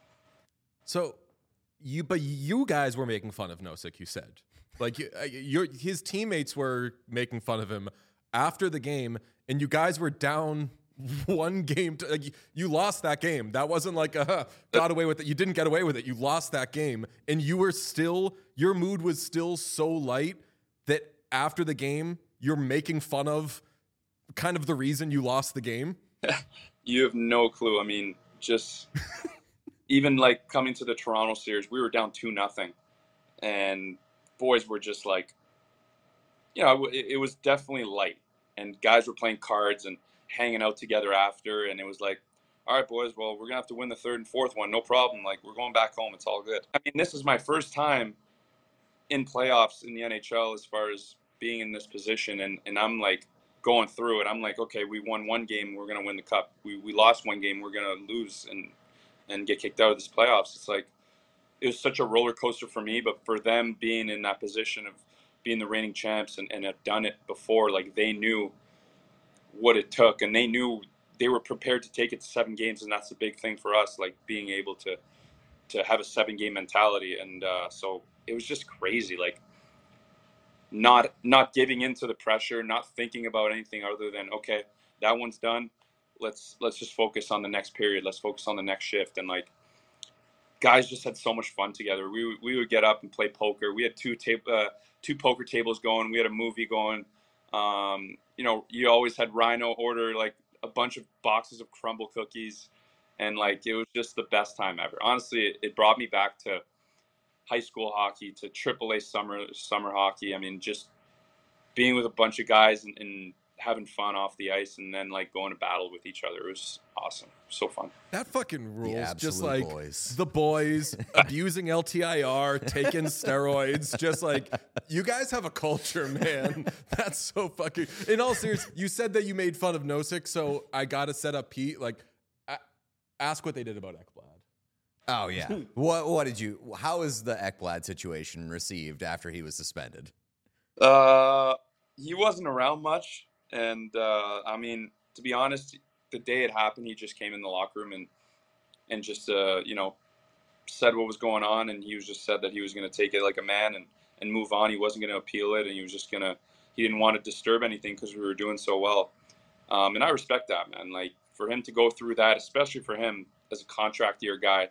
So you, but you guys were making fun of Nosek, you said. Like you, your his teammates were making fun of him after the game, and you guys were down one game. To, like, you lost that game. That wasn't like uh, got away with it. You didn't get away with it. You lost that game, and you were still. Your mood was still so light that after the game, you're making fun of kind of the reason you lost the game. You have no clue. I mean, just even like coming to the Toronto series, we were down two nothing, and boys were just like, you know, it, it was definitely light, and guys were playing cards and hanging out together after, and it was like, all right, boys, well, we're gonna have to win the third and fourth one, no problem. Like, we're going back home. It's all good. I mean, this is my first time in playoffs in the N H L as far as being in this position, and, and I'm like going through it. I'm like, okay, we won one game, we're gonna win the cup. We we lost one game, we're gonna lose and and get kicked out of this playoffs. It's like, it was such a roller coaster for me, but for them being in that position of being the reigning champs and, and have done it before, like they knew what it took, and they knew they were prepared to take it to seven games, and that's the big thing for us, like being able to to have a seven game mentality. And uh, so it was just crazy, like not not giving into the pressure, not thinking about anything other than, okay, that one's done. Let's let's just focus on the next period. Let's focus on the next shift. And like, guys just had so much fun together. We we would get up and play poker. We had two tab- uh, two poker tables going. We had a movie going. Um, you know, you always had Rhino order like a bunch of boxes of crumble cookies, and like it was just the best time ever. Honestly, it, it brought me back to high school hockey, to triple A summer summer hockey. I mean, just being with a bunch of guys and, and having fun off the ice, and then like going to battle with each other. It was awesome. So fun. That fucking rules. The Just absolute like boys. the boys abusing L T I R, taking steroids. Just like, you guys have a culture, man. That's so fucking. In all seriousness, you said that you made fun of Nosek, so I gotta set up Pete. Like, a- ask what they did about Ekblad. Oh yeah. what what did you? How was the Ekblad situation received after he was suspended? Uh, he wasn't around much, and uh, I mean, to be honest, the day it happened, he just came in the locker room and and just uh, you know, said what was going on, and he was just said that he was going to take it like a man and and move on. He wasn't going to appeal it, and he was just gonna. He didn't want to disturb anything because we were doing so well, um, and I respect that, man. Like, for him to go through that, especially for him as a contract year guy.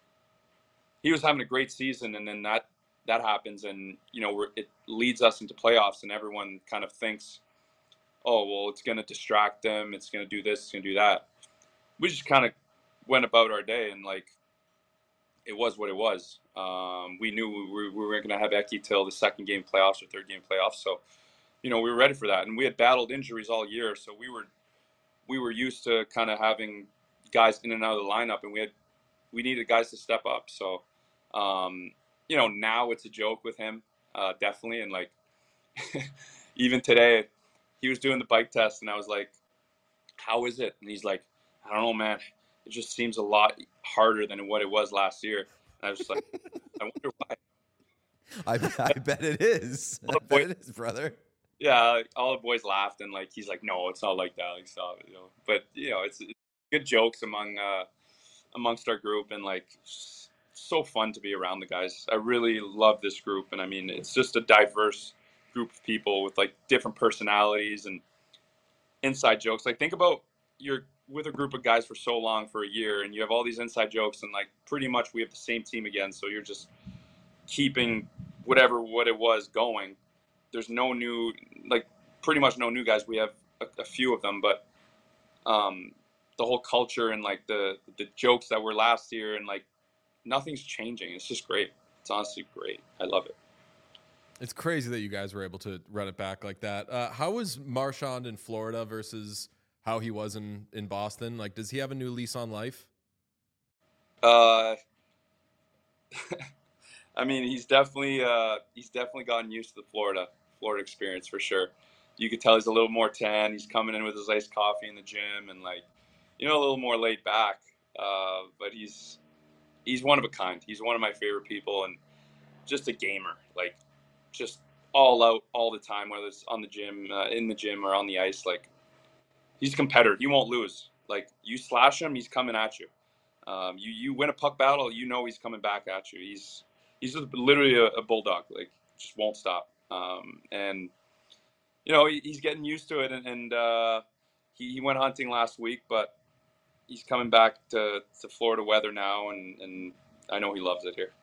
He was having a great season, and then that that happens, and you know, we're, it leads us into playoffs, and everyone kind of thinks, oh, well, it's going to distract them, it's going to do this, it's going to do that. We just kind of went about our day, and like, it was what it was. Um, we knew we were, we weren't going to have Eki till the second game playoffs or third game playoffs, so you know, we were ready for that, and we had battled injuries all year, so we were we were used to kind of having guys in and out of the lineup, and we had we needed guys to step up. So, um, you know, now it's a joke with him, uh, definitely. And like, even today, he was doing the bike test, and I was like, how is it? And he's like, I don't know, man. It just seems a lot harder than what it was last year. And I was just like, I wonder why. I, I bet it is. I bet it is, brother. Yeah, like, all the boys laughed, and like, he's like, no, it's not like that. Like, stop it, you know. But you know, it's, it's good jokes among uh, amongst our group, and like, so fun to be around the guys. I really love this group, and I mean, it's just a diverse group of people with like different personalities and inside jokes. Like, think about you're with a group of guys for so long, for a year, and you have all these inside jokes, and like, pretty much we have the same team again. So you're just keeping whatever what it was going. There's no new, like, pretty much no new guys. We have a, a few of them, but um, the whole culture and like the the jokes that were last year, and like, nothing's changing. It's just great. It's honestly great. I love it. It's crazy that you guys were able to run it back like that. Uh, how was Marchand in Florida versus how he was in, in Boston? Like, does he have a new lease on life? Uh, I mean, he's definitely uh, he's definitely gotten used to the Florida Florida experience for sure. You could tell he's a little more tan. He's coming in with his iced coffee in the gym and like, you know, a little more laid back. Uh, but he's he's one of a kind. He's one of my favorite people and just a gamer. Like, just all out all the time, whether it's on the gym, uh, in the gym, or on the ice. Like, he's a competitor. He won't lose. Like, you slash him, he's coming at you. Um, you you win a puck battle, you know he's coming back at you. He's he's just literally a, a bulldog. Like, just won't stop. Um, and you know he, he's getting used to it. And, and uh, he, he went hunting last week, but he's coming back to, to Florida weather now, and, and I know he loves it here.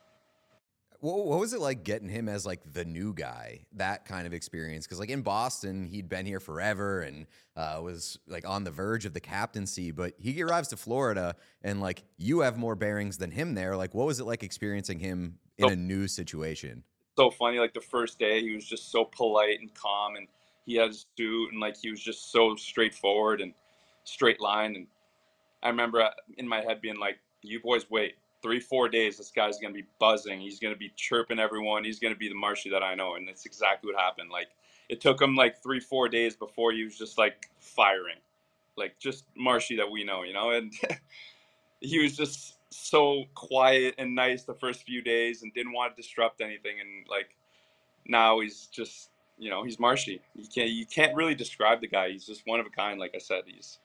What, what was it like getting him as like the new guy, that kind of experience? Because like in Boston, he'd been here forever and uh, was like on the verge of the captaincy, but he arrives to Florida and like you have more bearings than him there. Like, what was it like experiencing him in So, a new situation? So funny. Like the first day, he was just so polite and calm, and he had his suit, and like he was just so straightforward and straight line. And I remember in my head being like, "You boys wait. Three, four days, this guy's going to be buzzing. He's going to be chirping everyone. He's going to be the Marshy that I know." And that's exactly what happened. Like, it took him like three, four days before he was just like firing, like just Marshy that we know, you know? And he was just so quiet and nice the first few days and didn't want to disrupt anything. And like, now he's just, you know, he's Marshy. You can't, you can't really describe the guy. He's just one of a kind. Like I said, he's,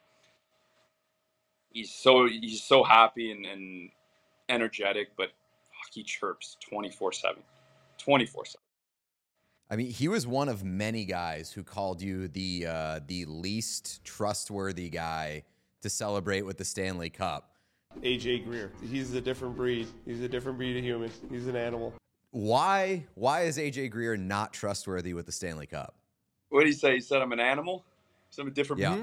he's so, he's so happy and, and, energetic, but he chirps twenty-four seven. twenty-four seven. I mean, he was one of many guys who called you the uh, the least trustworthy guy to celebrate with the Stanley Cup. A J Greer. He's a different breed. He's a different breed of human. He's an animal. Why why is A J Greer not trustworthy with the Stanley Cup? What did he say? He said I'm an animal? So I'm a different yeah. breed?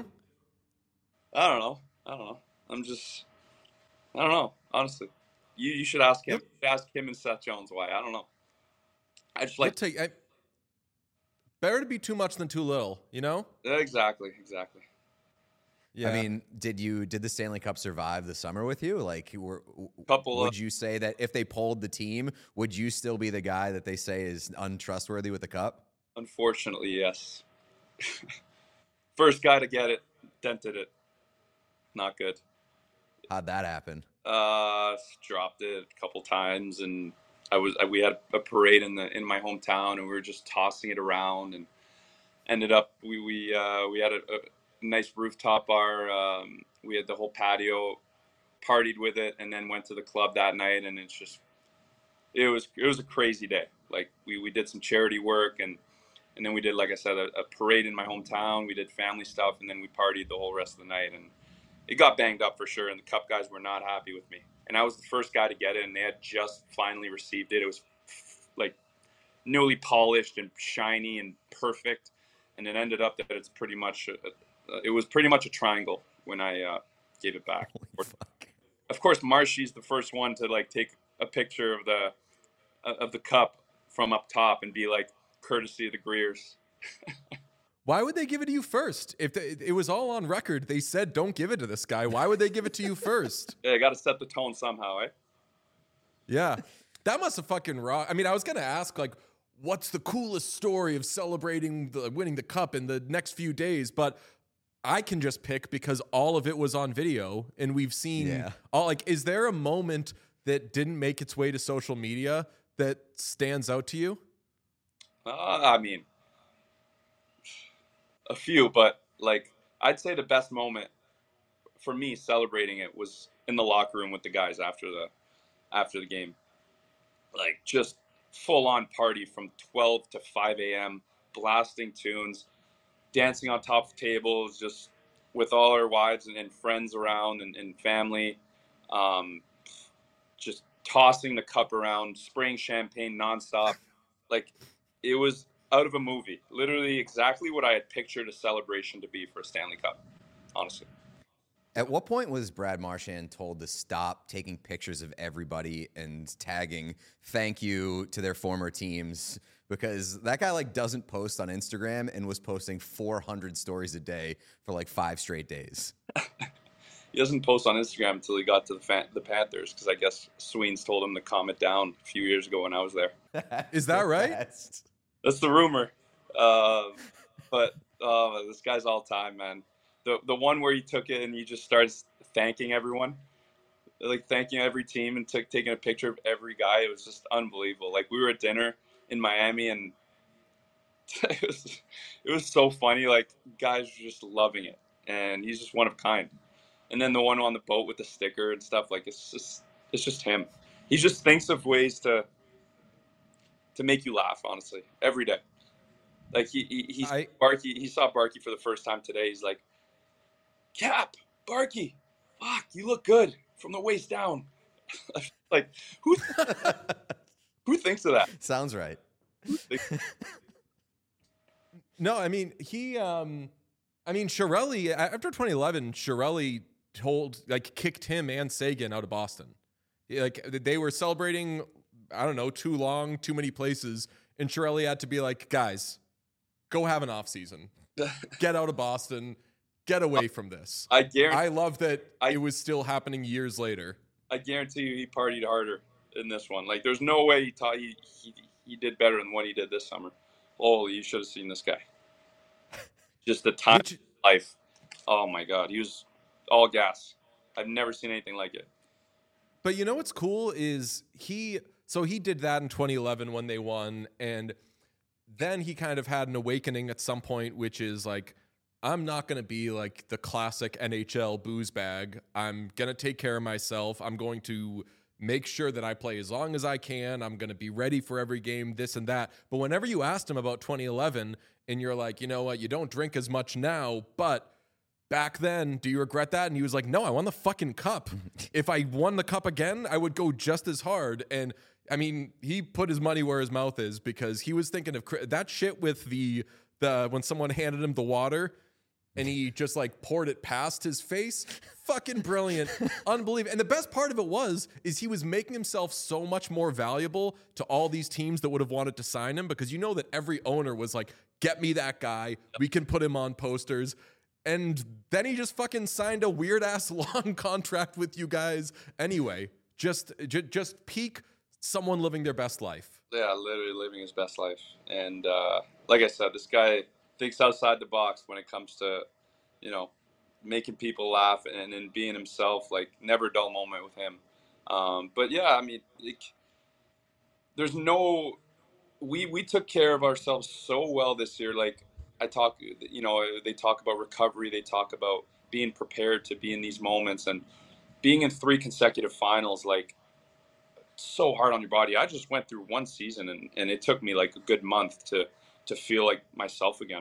I don't know. I don't know. I'm just, I don't know, honestly. You you should ask him. Yep. You should ask him and Seth Jones why. I don't know. I just like take I, better to be too much than too little, you know? Exactly, exactly. Yeah. I mean, did you did the Stanley Cup survive the summer with you? Like, were, Couple would of, you say that if they polled the team, would you still be the guy that they say is untrustworthy with the cup? Unfortunately, yes. First guy to get it, dented it. Not good. How'd that happen? Uh, dropped it a couple times, and I was we had a parade in the in my hometown, and we were just tossing it around, and ended up we we uh, we had a, a nice rooftop bar. Um, we had the whole patio, partied with it, and then went to the club that night, and it's just it was it was a crazy day. Like we, we did some charity work, and and then we did, like I said, a, a parade in my hometown. We did family stuff, and then we partied the whole rest of the night, and it got banged up for sure, and the Cup guys were not happy with me. And I was the first guy to get it, and they had just finally received it. It was like newly polished and shiny and perfect, and it ended up that it's pretty much a, a, it was pretty much a triangle when I uh, gave it back. Of course, Marshy's the first one to like take a picture of the of the cup from up top and be like, courtesy of the Greers. Why would they give it to you first? If they, it was all on record, they said don't give it to this guy. Why would they give it to you first? Yeah, I got to set the tone somehow, eh? Yeah, that must have fucking rocked. I mean, I was gonna ask like, what's the coolest story of celebrating the winning the cup in the next few days? But I can just pick because all of it was on video, and we've seen Yeah. all. Like, is there a moment that didn't make its way to social media that stands out to you? Uh, I mean. A few, but like I'd say the best moment for me celebrating it was in the locker room with the guys after the after the game. Like just full on party from twelve to five a.m. blasting tunes, dancing on top of tables, just with all our wives and, and friends around and, and family, um, just tossing the cup around, spraying champagne nonstop. Like it was out of a movie, literally exactly what I had pictured a celebration to be for a Stanley Cup, honestly. At what point was Brad Marchand told to stop taking pictures of everybody and tagging thank you to their former teams? Because that guy like doesn't post on Instagram and was posting four hundred stories a day for like five straight days. he doesn't post on Instagram until he got to the fan, the Panthers, because I guess Sweens told him to calm it down a few years ago when I was there. Is that right? Best. That's the rumor. Uh, but uh, this guy's all time, man. The the one where he took it and he just starts thanking everyone, like thanking every team and took taking a picture of every guy. It was just unbelievable. Like we were at dinner in Miami and it was it was so funny. Like guys were just loving it, and he's just one of a kind. And then the one on the boat with the sticker and stuff, like it's just it's just him. He just thinks of ways to to make you laugh, honestly, every day. Like he he he, I- Barkey, he saw Barkey for the first time today. He's like, Cap, Barkey, fuck, you look good from the waist down. Like who who thinks of that? Sounds right. No, I mean he. Um, I mean Chiarelli after twenty eleven, Chiarelli told like kicked him and Sagan out of Boston. He, like they were celebrating, I don't know, too long, too many places, and Chiarelli had to be like, guys, go have an off season, get out of Boston, get away from this. I guarantee. I love that I- it was still happening years later. I guarantee you, he partied harder in this one. Like, there's no way he taught he he, he did better than what he did this summer. Holy, you should have seen this guy. Just the time Which- of life. Oh my God, he was all gas. I've never seen anything like it. But you know what's cool is he, so he did that in twenty eleven when they won. And then he kind of had an awakening at some point, which is like, I'm not going to be like the classic N H L booze bag. I'm going to take care of myself. I'm going to make sure that I play as long as I can. I'm going to be ready for every game, this and that. But whenever you asked him about twenty eleven and you're like, you know what, you don't drink as much now, but back then, do you regret that? And he was like, no, I won the fucking cup. If I won the cup again, I would go just as hard. And I mean, he put his money where his mouth is because he was thinking of cri- that shit with the, the, when someone handed him the water and he just like poured it past his face. Fucking brilliant. Unbelievable. And the best part of it was, is he was making himself so much more valuable to all these teams that would have wanted to sign him, because you know that every owner was like, get me that guy. We can put him on posters. And then he just fucking signed a weird ass long contract with you guys anyway. Just, j- just peak someone living their best life. Yeah, literally living his best life. And uh, like I said, this guy thinks outside the box when it comes to, you know, making people laugh and, and being himself. Like, never a dull moment with him. Um, but yeah, I mean, it, there's no, we we took care of ourselves so well this year. Like I talk, you know, they talk about recovery. They talk about being prepared to be in these moments and being in three consecutive finals. Like, so hard on your body. I just went through one season and, and it took me like a good month to to feel like myself again.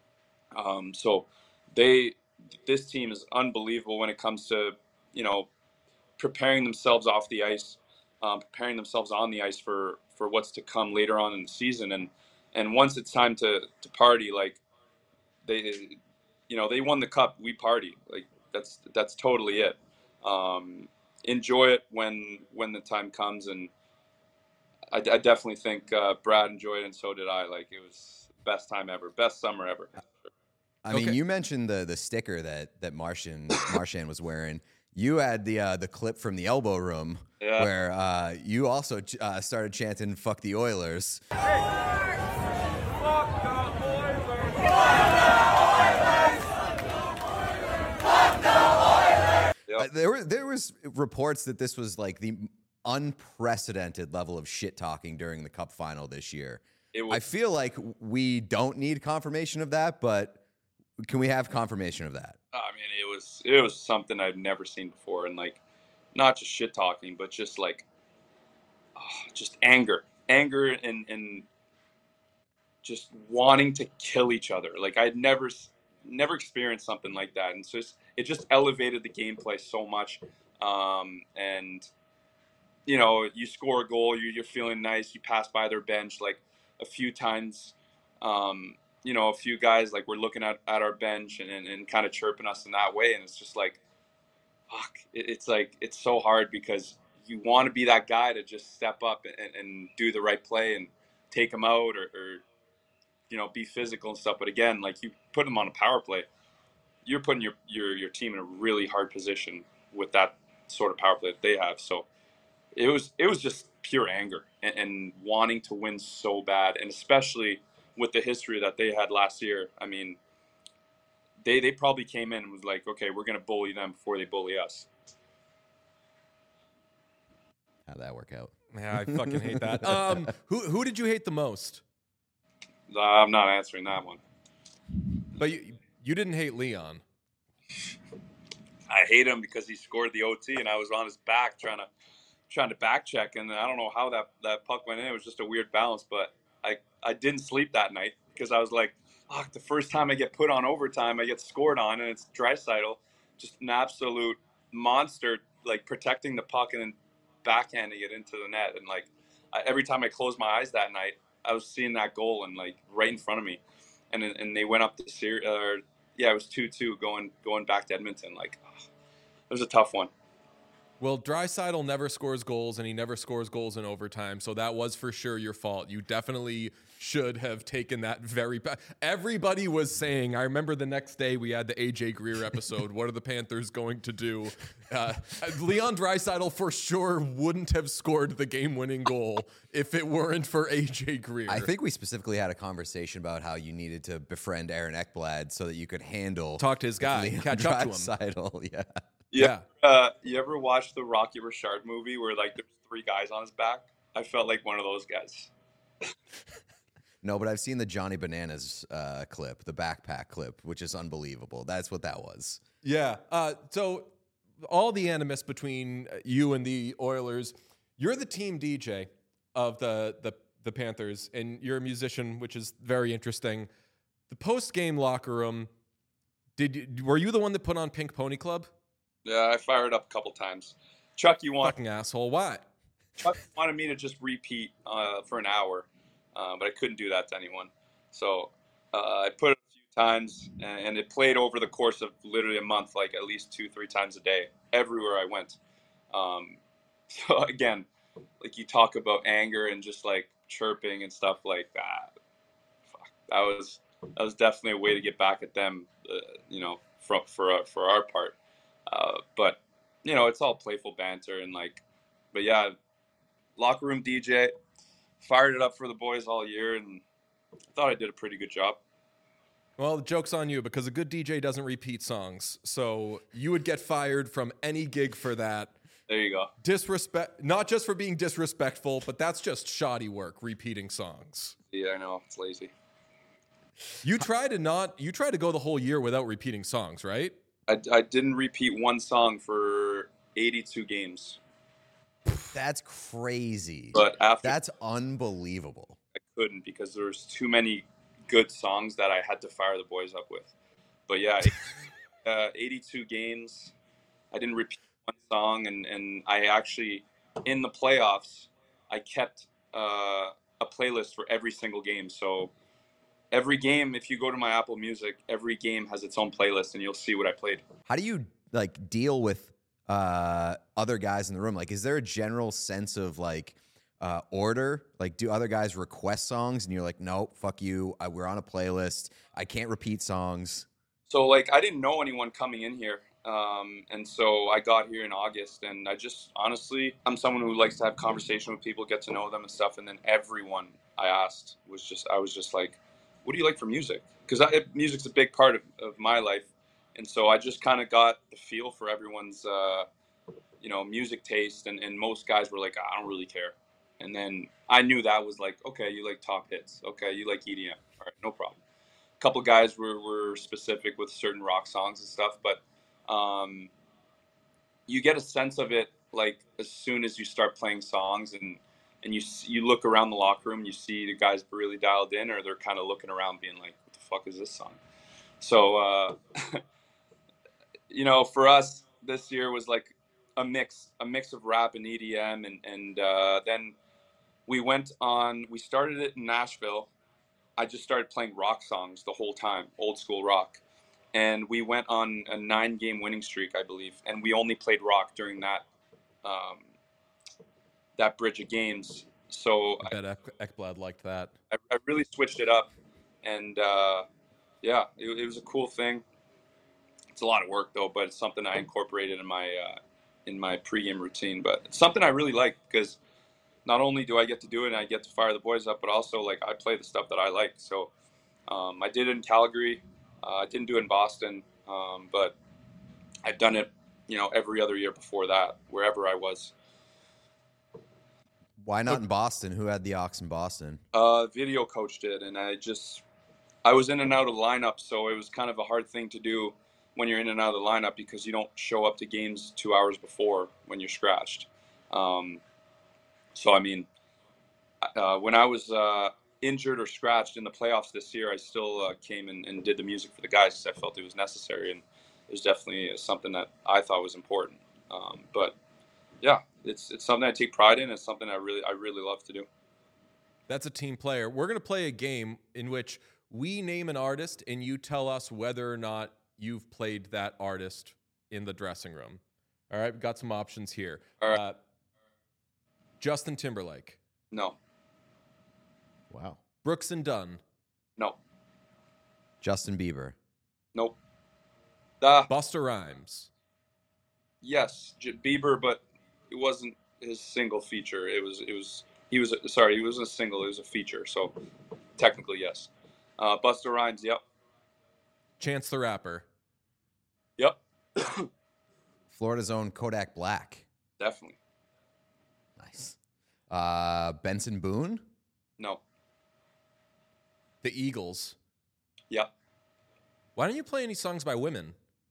Um, so they, this team is unbelievable when it comes to, you know, preparing themselves off the ice, um, preparing themselves on the ice for, for what's to come later on in the season. And, and once it's time to, to party, like they, you know, they won the cup, we party. Like that's, that's totally it. Um, enjoy it when, when the time comes. And I, I definitely think uh, Brad enjoyed it, and so did I. Like, it was the best time ever, best summer ever. I mean, Okay. you mentioned the the sticker that that Martian Marchand was wearing. You had the uh, the clip from the elbow room Yeah. where uh, you also ch- uh, started chanting "Fuck the Oilers." Yep. Uh, there were there was reports that this was like the unprecedented level of shit talking during the Cup final this year. It I was, feel like we don't need confirmation of that, but can we have confirmation of that? I mean, it was, it was something I'd never seen before. And like, not just shit talking, but just like, oh, just anger, anger and, and just wanting to kill each other. Like I'd never, never experienced something like that. And so it's just, it just elevated the gameplay so much. Um, and, you know, you score a goal, you, you're feeling nice. You pass by their bench like a few times. Um, you know, a few guys like we're looking at, at our bench and, and, and kind of chirping us in that way. And it's just like, fuck, it, it's like, it's so hard because you want to be that guy to just step up and, and do the right play and take them out or, or, you know, be physical and stuff. But again, like you put them on a power play, you're putting your, your your team in a really hard position with that sort of power play that they have. So it was it was just pure anger and, and wanting to win so bad, and especially with the history that they had last year. I mean, they they probably came in and was like, okay, we're going to bully them before they bully us. How'd that work out? Yeah, I fucking hate that. Um, who who did you hate the most? I'm not answering that one. But you you didn't hate Leon. I hate him because he scored the O T and I was on his back trying to trying to back check, and I don't know how that, that puck went in. It was just a weird bounce, but I, I didn't sleep that night because I was like, fuck, the first time I get put on overtime, I get scored on, and it's Draisaitl, just an absolute monster, like protecting the puck and then backhanding it into the net. And like I, every time I closed my eyes that night, I was seeing that goal and like right in front of me, and and they went up the series. Uh, yeah, it was two two going going back to Edmonton. Like oh, it was a tough one. Well, Draisaitl never scores goals, and he never scores goals in overtime, so that was for sure your fault. You definitely should have taken that very bad. Everybody was saying, I remember the next day we had the A J Greer episode, what are the Panthers going to do? Uh, Leon Draisaitl for sure wouldn't have scored the game-winning goal if it weren't for A J Greer. I think we specifically had a conversation about how you needed to befriend Aaron Ekblad so that you could handle... Talk to his guy, Leon catch up to him. Draisaitl, yeah. Yeah. Uh, you ever watch the Rocky Richard movie where like there's three guys on his back? I felt like one of those guys. No, but I've seen the Johnny Bananas uh, clip, the backpack clip, which is unbelievable. That's what that was. Yeah. Uh, so all the animus between you and the Oilers, you're the team D J of the the, the Panthers, and you're a musician, which is very interesting. The post-game locker room, did you, were you the one that put on Pink Pony Club? Yeah, I fired up a couple times. Chuck, you want fucking asshole? Why? Chuck wanted me to just repeat uh, for an hour, uh, but I couldn't do that to anyone. So uh, I put it a few times, and, and it played over the course of literally a month, like at least two, three times a day, everywhere I went. Um, so again, like you talk about anger and just like chirping and stuff like that. Fuck, that was that was definitely a way to get back at them, uh, you know, for for uh, for our part. Uh, but you know, it's all playful banter and like, but yeah, locker room D J, fired it up for the boys all year, and I thought I did a pretty good job. Well, the joke's on you because a good D J doesn't repeat songs, so you would get fired from any gig for that. There you go. Disrespect, not just for being disrespectful, but that's just shoddy work, repeating songs. Yeah, I know, it's lazy. You try to not, you try to go the whole year without repeating songs, right? I, I didn't repeat one song for eighty-two games. That's crazy. But after That's unbelievable. I couldn't because there was too many good songs that I had to fire the boys up with. But yeah, uh, eighty-two games. I didn't repeat one song, and, and I actually, in the playoffs, I kept uh, a playlist for every single game. So every game, if you go to my Apple Music, every game has its own playlist, and you'll see what I played. How do you like deal with uh, other guys in the room? Like, is there a general sense of like uh, order? Like, do other guys request songs, and you're like, no, fuck you. I, we're on a playlist. I can't repeat songs. So like, I didn't know anyone coming in here. Um, and so I got here in August, and I just, honestly, I'm someone who likes to have conversation with people, get to know them and stuff. And then everyone I asked was just, I was just like, what do you like for music? Because music's a big part of, of my life. And so I just kind of got the feel for everyone's, uh, you know, music taste. And, and most guys were like, I don't really care. And then I knew that was like, okay, you like top hits. Okay, you like E D M. All right, no problem. A couple guys were, were specific with certain rock songs and stuff. But um, you get a sense of it, like, as soon as you start playing songs and and you you look around the locker room, you see the guys really dialed in, or they're kind of looking around being like, what the fuck is this song? So, uh, you know, for us, this year was like a mix, a mix of rap and E D M. And, and uh, then we went on, we started it in Nashville. I just started playing rock songs the whole time, old school rock. And we went on a nine game winning streak, I believe. And we only played rock during that, um, that bridge of games. So I bet Ek- Ekblad liked that. I, I really switched it up, and uh, yeah, it, it was a cool thing. it's a lot of work though, but it's something I incorporated in my uh, in my pregame routine. But it's something I really like because not only do I get to do it and I get to fire the boys up, but also like I play the stuff that I like. So um, I did it in Calgary. Uh, I didn't do it in Boston, um, but I've done it, you know, every other year before that, wherever I was. Why not in Boston? Who had the aux in Boston? Uh, video coach did, and I just I was in and out of the lineup, so it was kind of a hard thing to do when you're in and out of the lineup because you don't show up to games two hours before when you're scratched. Um, so I mean, uh, when I was uh, injured or scratched in the playoffs this year, I still uh, came and, and did the music for the guys because I felt it was necessary, and it was definitely something that I thought was important. Um, but yeah, it's it's something I take pride in. It's something I really I really love to do. That's a team player. We're going to play a game in which we name an artist and you tell us whether or not you've played that artist in the dressing room. All right, we've got some options here. All right. Uh, Justin Timberlake. No. Wow. Brooks and Dunn. No. Justin Bieber. Nope. Uh, Busta Rhymes. Yes, J- Bieber, but it wasn't his single feature. It was, it was, he was, sorry, he wasn't a single, it was a feature. So technically, yes. Uh, Busta Rhymes, yep. Chance the Rapper. Yep. Florida's own Kodak Black. Definitely. Nice. Uh, Benson Boone? No. The Eagles. Yep. Why don't you play any songs by women?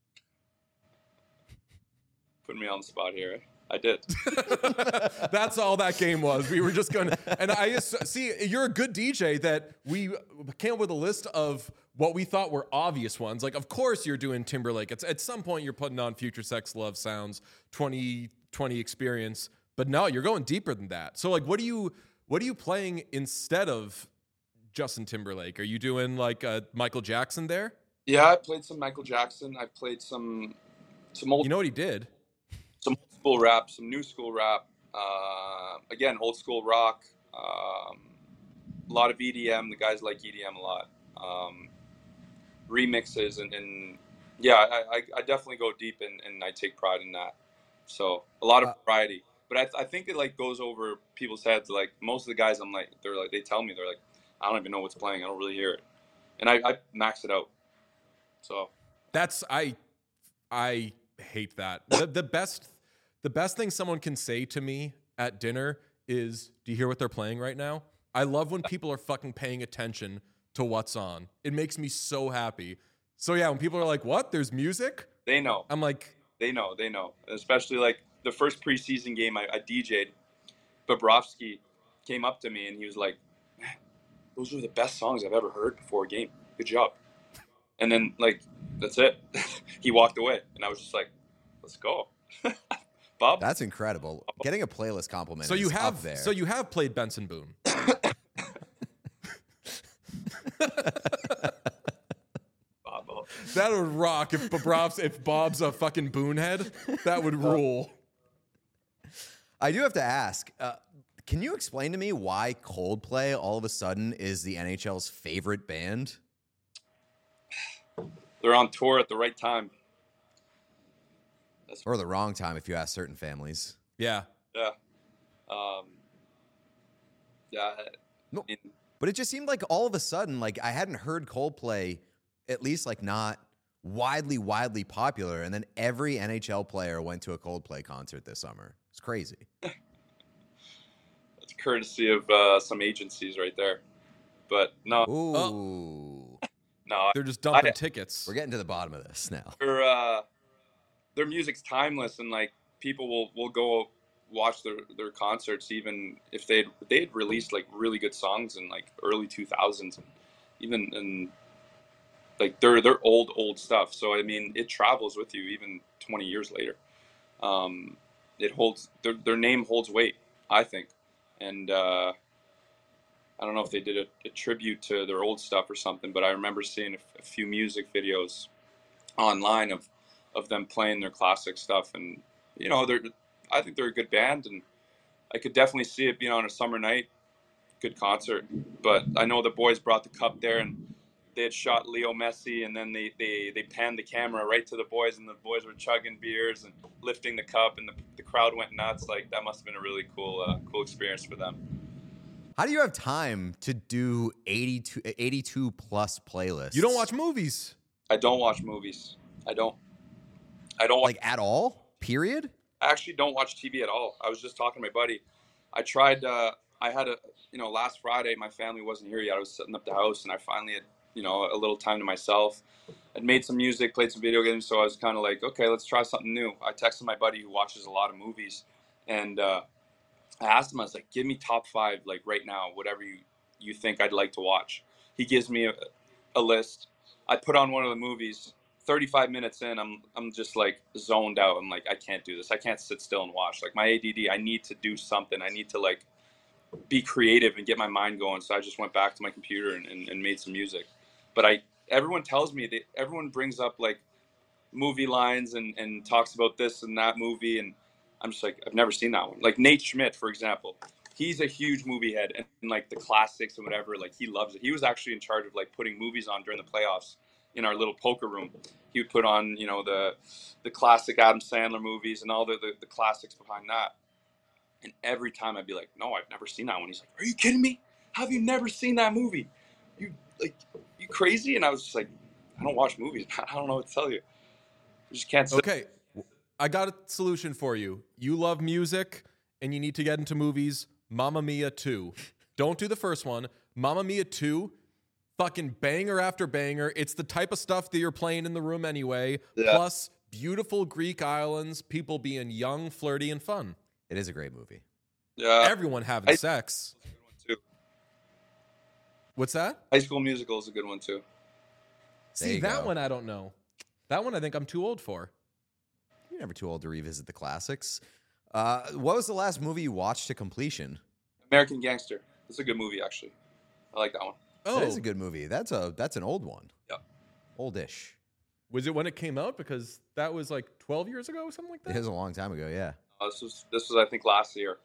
Putting me on the spot here. I did. That's all that game was. We were just going to, and I just, see, you're a good D J that we came up with a list of what we thought were obvious ones. Like, of course you're doing Timberlake. It's, at some point you're putting on Future Sex Love Sounds, twenty twenty Experience, but no, you're going deeper than that. So like, what do you, what are you playing instead of Justin Timberlake? Are you doing like uh, Michael Jackson there? Yeah, I played some Michael Jackson. I played some, some old. You know what he did? Some old school rap, some new school rap. Uh, again, old school rock. Um, a lot of E D M. The guys like E D M a lot. Um, remixes and, and yeah, I, I, I definitely go deep and, and I take pride in that. So a lot of variety. But I, I think it like goes over people's heads. Like most of the guys, I'm like, they're like, they tell me they're like, I don't even know what's playing. I don't really hear it, and I, I max it out. So that's I I hate that. The, the best the best thing someone can say to me at dinner is, "Do you hear what they're playing right now?" I love when people are fucking paying attention to what's on. It makes me so happy. So yeah, when people are like, "What? There's music?" They know. I'm like, they know. They know. Especially like the first preseason game I, I D J'd. Bobrovsky came up to me and he was like, "Man, those are the best songs I've ever heard before a game. Good job." And then, like, that's it. He walked away, and I was just like, "Let's go, Bob." That's incredible. Getting a playlist compliment. So you is have up there. so you have played Benson Boone. That would rock if Bob's if Bob's a fucking Boone head. That would rule. I do have to ask. Uh, can you explain to me why Coldplay all of a sudden is the N H L's favorite band? They're on tour at the right time. That's or the wrong time if you ask certain families. Yeah. Yeah. Um, yeah. No, but it just seemed like all of a sudden, like I hadn't heard Coldplay, at least like not widely, widely popular. And then every N H L player went to a Coldplay concert this summer. It's crazy. That's courtesy of uh, some agencies right there. But no. Ooh. Oh. No, they're just dumping I, tickets. We're getting to the bottom of this now. Their uh, their music's timeless, and like people will, will go watch their, their concerts even if they they had released like really good songs in like early two thousands, and even in like they're they're old old stuff. So I mean, it travels with you even twenty years later. Um, it holds their their name holds weight, I think, and. Uh, I don't know if they did a, a tribute to their old stuff or something, but I remember seeing a, a few music videos online of, of them playing their classic stuff. And, you know, they're, I think they're a good band, and I could definitely see it being on a summer night, good concert. But I know the boys brought the cup there, and they had shot Leo Messi, and then they, they, they panned the camera right to the boys, and the boys were chugging beers and lifting the cup, and the, the crowd went nuts. Like, that must have been a really cool uh, cool experience for them. How do you have time to do eighty-two, eighty-two plus playlists? You don't watch movies. I don't watch movies. I don't. I don't like at all. Period. I actually don't watch T V at all. I was just talking to my buddy. I tried. Uh, I had a you know last Friday my family wasn't here yet. I was setting up the house, and I finally had you know a little time to myself. I'd made some music, played some video games, so I was kind of like, okay, let's try something new. I texted my buddy who watches a lot of movies, and uh, I asked him. I was like, give me top five like right now, whatever you you think I'd like to watch. He gives me a, a list. I put on one of the movies. thirty-five minutes in, I'm I'm just like zoned out. I'm like, I can't do this. I can't sit still and watch. Like my A D D, I need to do something. I need to like be creative and get my mind going. So I just went back to my computer and, and, and made some music. But I, everyone tells me that everyone brings up like movie lines and, and talks about this and that movie. And I'm just like, I've never seen that one. Like Nate Schmidt, for example, he's a huge movie head and, and like the classics and whatever, like he loves it. He was actually in charge of like putting movies on during the playoffs. In our little poker room, he would put on, you know, the the classic Adam Sandler movies and all the, the, the classics behind that. And every time I'd be like, no, I've never seen that one. He's like, are you kidding me? How have you never seen that movie? You like, you crazy? And I was just like, I don't watch movies. I don't know what to tell you. I just can't. Sit. Okay, I got a solution for you. You love music and you need to get into movies. Mamma Mia two. Don't do the first one. Mamma Mia two. Fucking banger after banger. It's the type of stuff that you're playing in the room anyway. Yeah. Plus, beautiful Greek islands, people being young, flirty, and fun. It is a great movie. Yeah. Everyone having I, sex. Too. What's that? High School Musical is a good one too. See, that go. one I don't know. That one I think I'm too old for. You're never too old to revisit the classics. Uh, what was the last movie you watched to completion? American Gangster. It's a good movie, actually. I like that one. Oh, that is a good movie. That's a that's an old one. Yeah. Oldish. Was it when it came out? Because that was like twelve years ago or something like that? It was a long time ago, yeah. Uh, this was this was I think last year.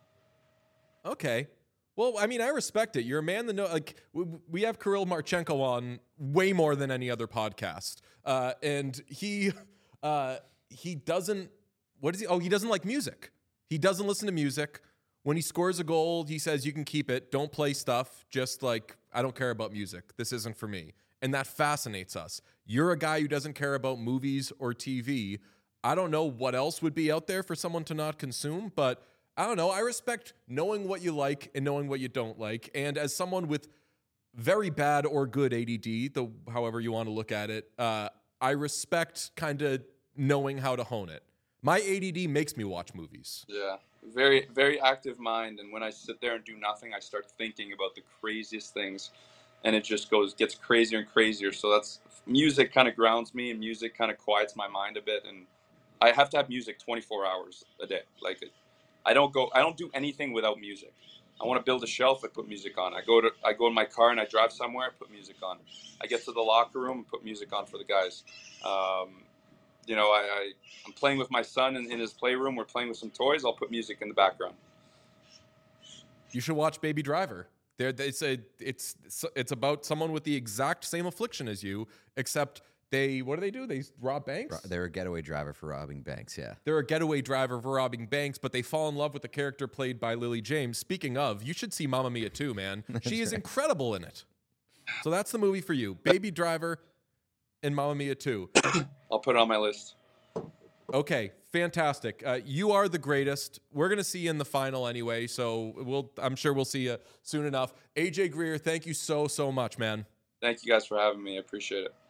Okay. Well, I mean, I respect it. You're a man that know. Like, we have Kirill Marchenko on way more than any other podcast, uh, and he uh, he doesn't. What is he? Oh, he doesn't like music. He doesn't listen to music. When he scores a goal, he says, "You can keep it. Don't play stuff. Just like I don't care about music. This isn't for me." And that fascinates us. You're a guy who doesn't care about movies or T V. I don't know what else would be out there for someone to not consume, but I don't know. I respect knowing what you like and knowing what you don't like. And as someone with very bad or good A D D, the however you want to look at it, uh, I respect kind of knowing how to hone it. My A D D makes me watch movies. Yeah, very, very active mind. And when I sit there and do nothing, I start thinking about the craziest things. And it just goes, gets crazier and crazier. So that's, music kind of grounds me and music kind of quiets my mind a bit. And I have to have music twenty-four hours a day. Like, I don't go, I don't do anything without music. I want to build a shelf, I put music on. I go to, I go in my car and I drive somewhere, I put music on. I get to the locker room and put music on for the guys. Um, you know, I, I, I'm playing with my son in, in his playroom. We're playing with some toys. I'll put music in the background. You should watch Baby Driver. There, it's a, it's, it's about someone with the exact same affliction as you, except they, what do they do? They rob banks? They're a getaway driver for robbing banks, yeah. They're a getaway driver for robbing banks, but they fall in love with the character played by Lily James. Speaking of, you should see Mamma Mia too, man. She is right. incredible in it. So that's the movie for you. Baby Driver and Mamma Mia two. I'll put it on my list. Okay, fantastic. Uh, you are the greatest. We're going to see you in the final anyway, so we'll. I'm sure we'll see you soon enough. A J Greer, thank you so, so much, man. Thank you guys for having me. I appreciate it.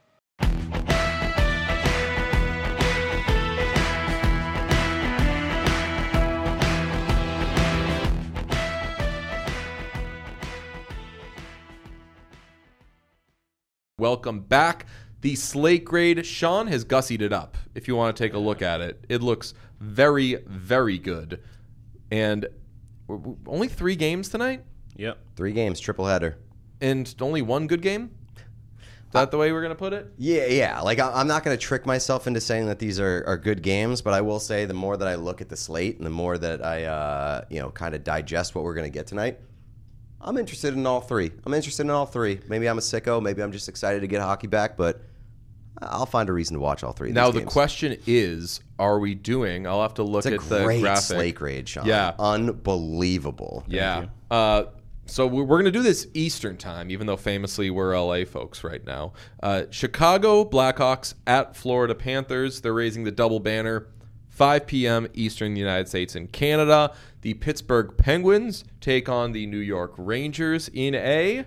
Welcome back. The slate grade, Sean has gussied it up. If you want to take a look at it, it looks very, very good. And only three games tonight? Yep. Three games, triple header. And only one good game? Is that the way we're going to put it? Yeah, yeah. Like, I'm not going to trick myself into saying that these are, are good games, but I will say the more that I look at the slate and the more that I, uh, you know, kind of digest what we're going to get tonight, I'm interested in all three. I'm interested in all three. Maybe I'm a sicko. Maybe I'm just excited to get hockey back, but I'll find a reason to watch all three of Now these the games. question is, are we doing? I'll have to look It's a at the great graphic. slate grade, Sean. Yeah, unbelievable. yeah. Uh, so we're going to do this Eastern time, even though famously we're L A folks right now. Uh, Chicago Blackhawks at Florida Panthers. They're raising the double banner. five p.m. Eastern, United States and Canada. The Pittsburgh Penguins take on the New York Rangers in a...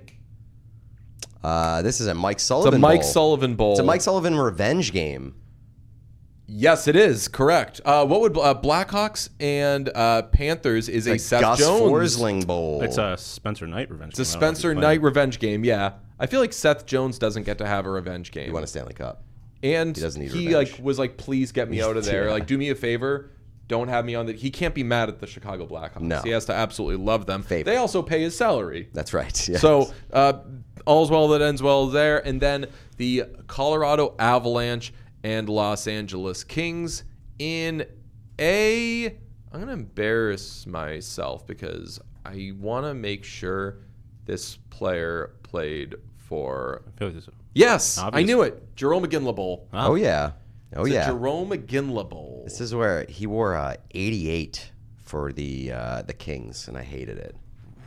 Uh, this is a Mike Sullivan It's a Mike Bowl. Sullivan Bowl. It's a Mike Sullivan revenge game. Yes, it is. Correct. Uh, what would uh, Blackhawks and uh, Panthers is a Like Seth Gus Jones. Forsling Bowl. It's a Spencer Knight revenge. It's a game. I don't know if Spencer he's Knight playing. revenge game, yeah. I feel like Seth Jones doesn't get to have a revenge game. You want a Stanley Cup. And He doesn't need he revenge. like was like, please get me out of there. Yeah. Like, do me a favor. Don't have me on the. He can't be mad at the Chicago Blackhawks. No. He has to absolutely love them. Favorite. They also pay his salary. That's right. Yes. So uh, all's well that ends well there. And then the Colorado Avalanche and Los Angeles Kings in a. I'm going to embarrass myself because I want to make sure this player played for. I feel like this- Yes, Obvious. I knew it. Jerome McGinley Bowl. Oh yeah. Oh It's a yeah. Jerome McGinley Bowl. This is where he wore uh, eighty-eight for the uh, the Kings, and I hated it.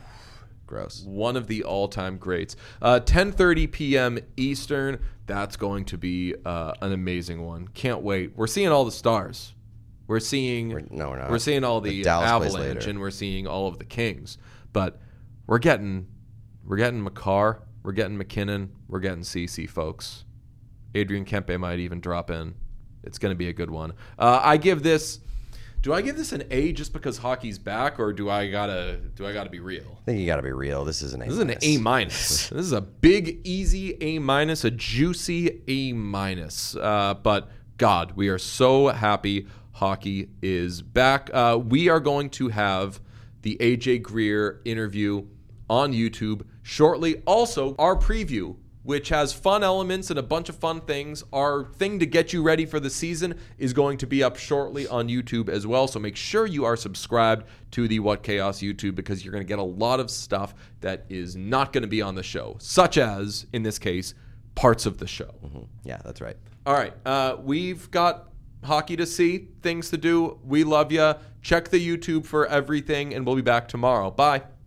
Gross. One of the all-time greats. Uh, ten thirty p.m. Eastern. That's going to be uh, an amazing one. Can't wait. We're seeing all the stars. We're seeing. We're- no, we're not. We're seeing all The the, Dallas plays Avalanche, later. and we're seeing all of the Kings. But we're getting, we're getting McCarr. We're getting McKinnon. We're getting C C, folks. Adrian Kempe might even drop in. It's going to be a good one. Uh, I give this. Do I give this an A just because hockey's back, or do I gotta do I gotta be real? I think you got to be real. This is an A. This is an A minus. This is a big, easy A minus, a juicy A minus. Uh, but God, we are so happy hockey is back. Uh, we are going to have the A J Greer interview on YouTube shortly. Also, our preview, which has fun elements and a bunch of fun things. Our thing to get you ready for the season is going to be up shortly on YouTube as well. So make sure you are subscribed to the What Chaos YouTube because you're going to get a lot of stuff that is not going to be on the show, such as, in this case, parts of the show. Mm-hmm. Yeah, that's right. All right. Uh, we've got hockey to see, things to do. We love you. Check the YouTube for everything, and we'll be back tomorrow. Bye.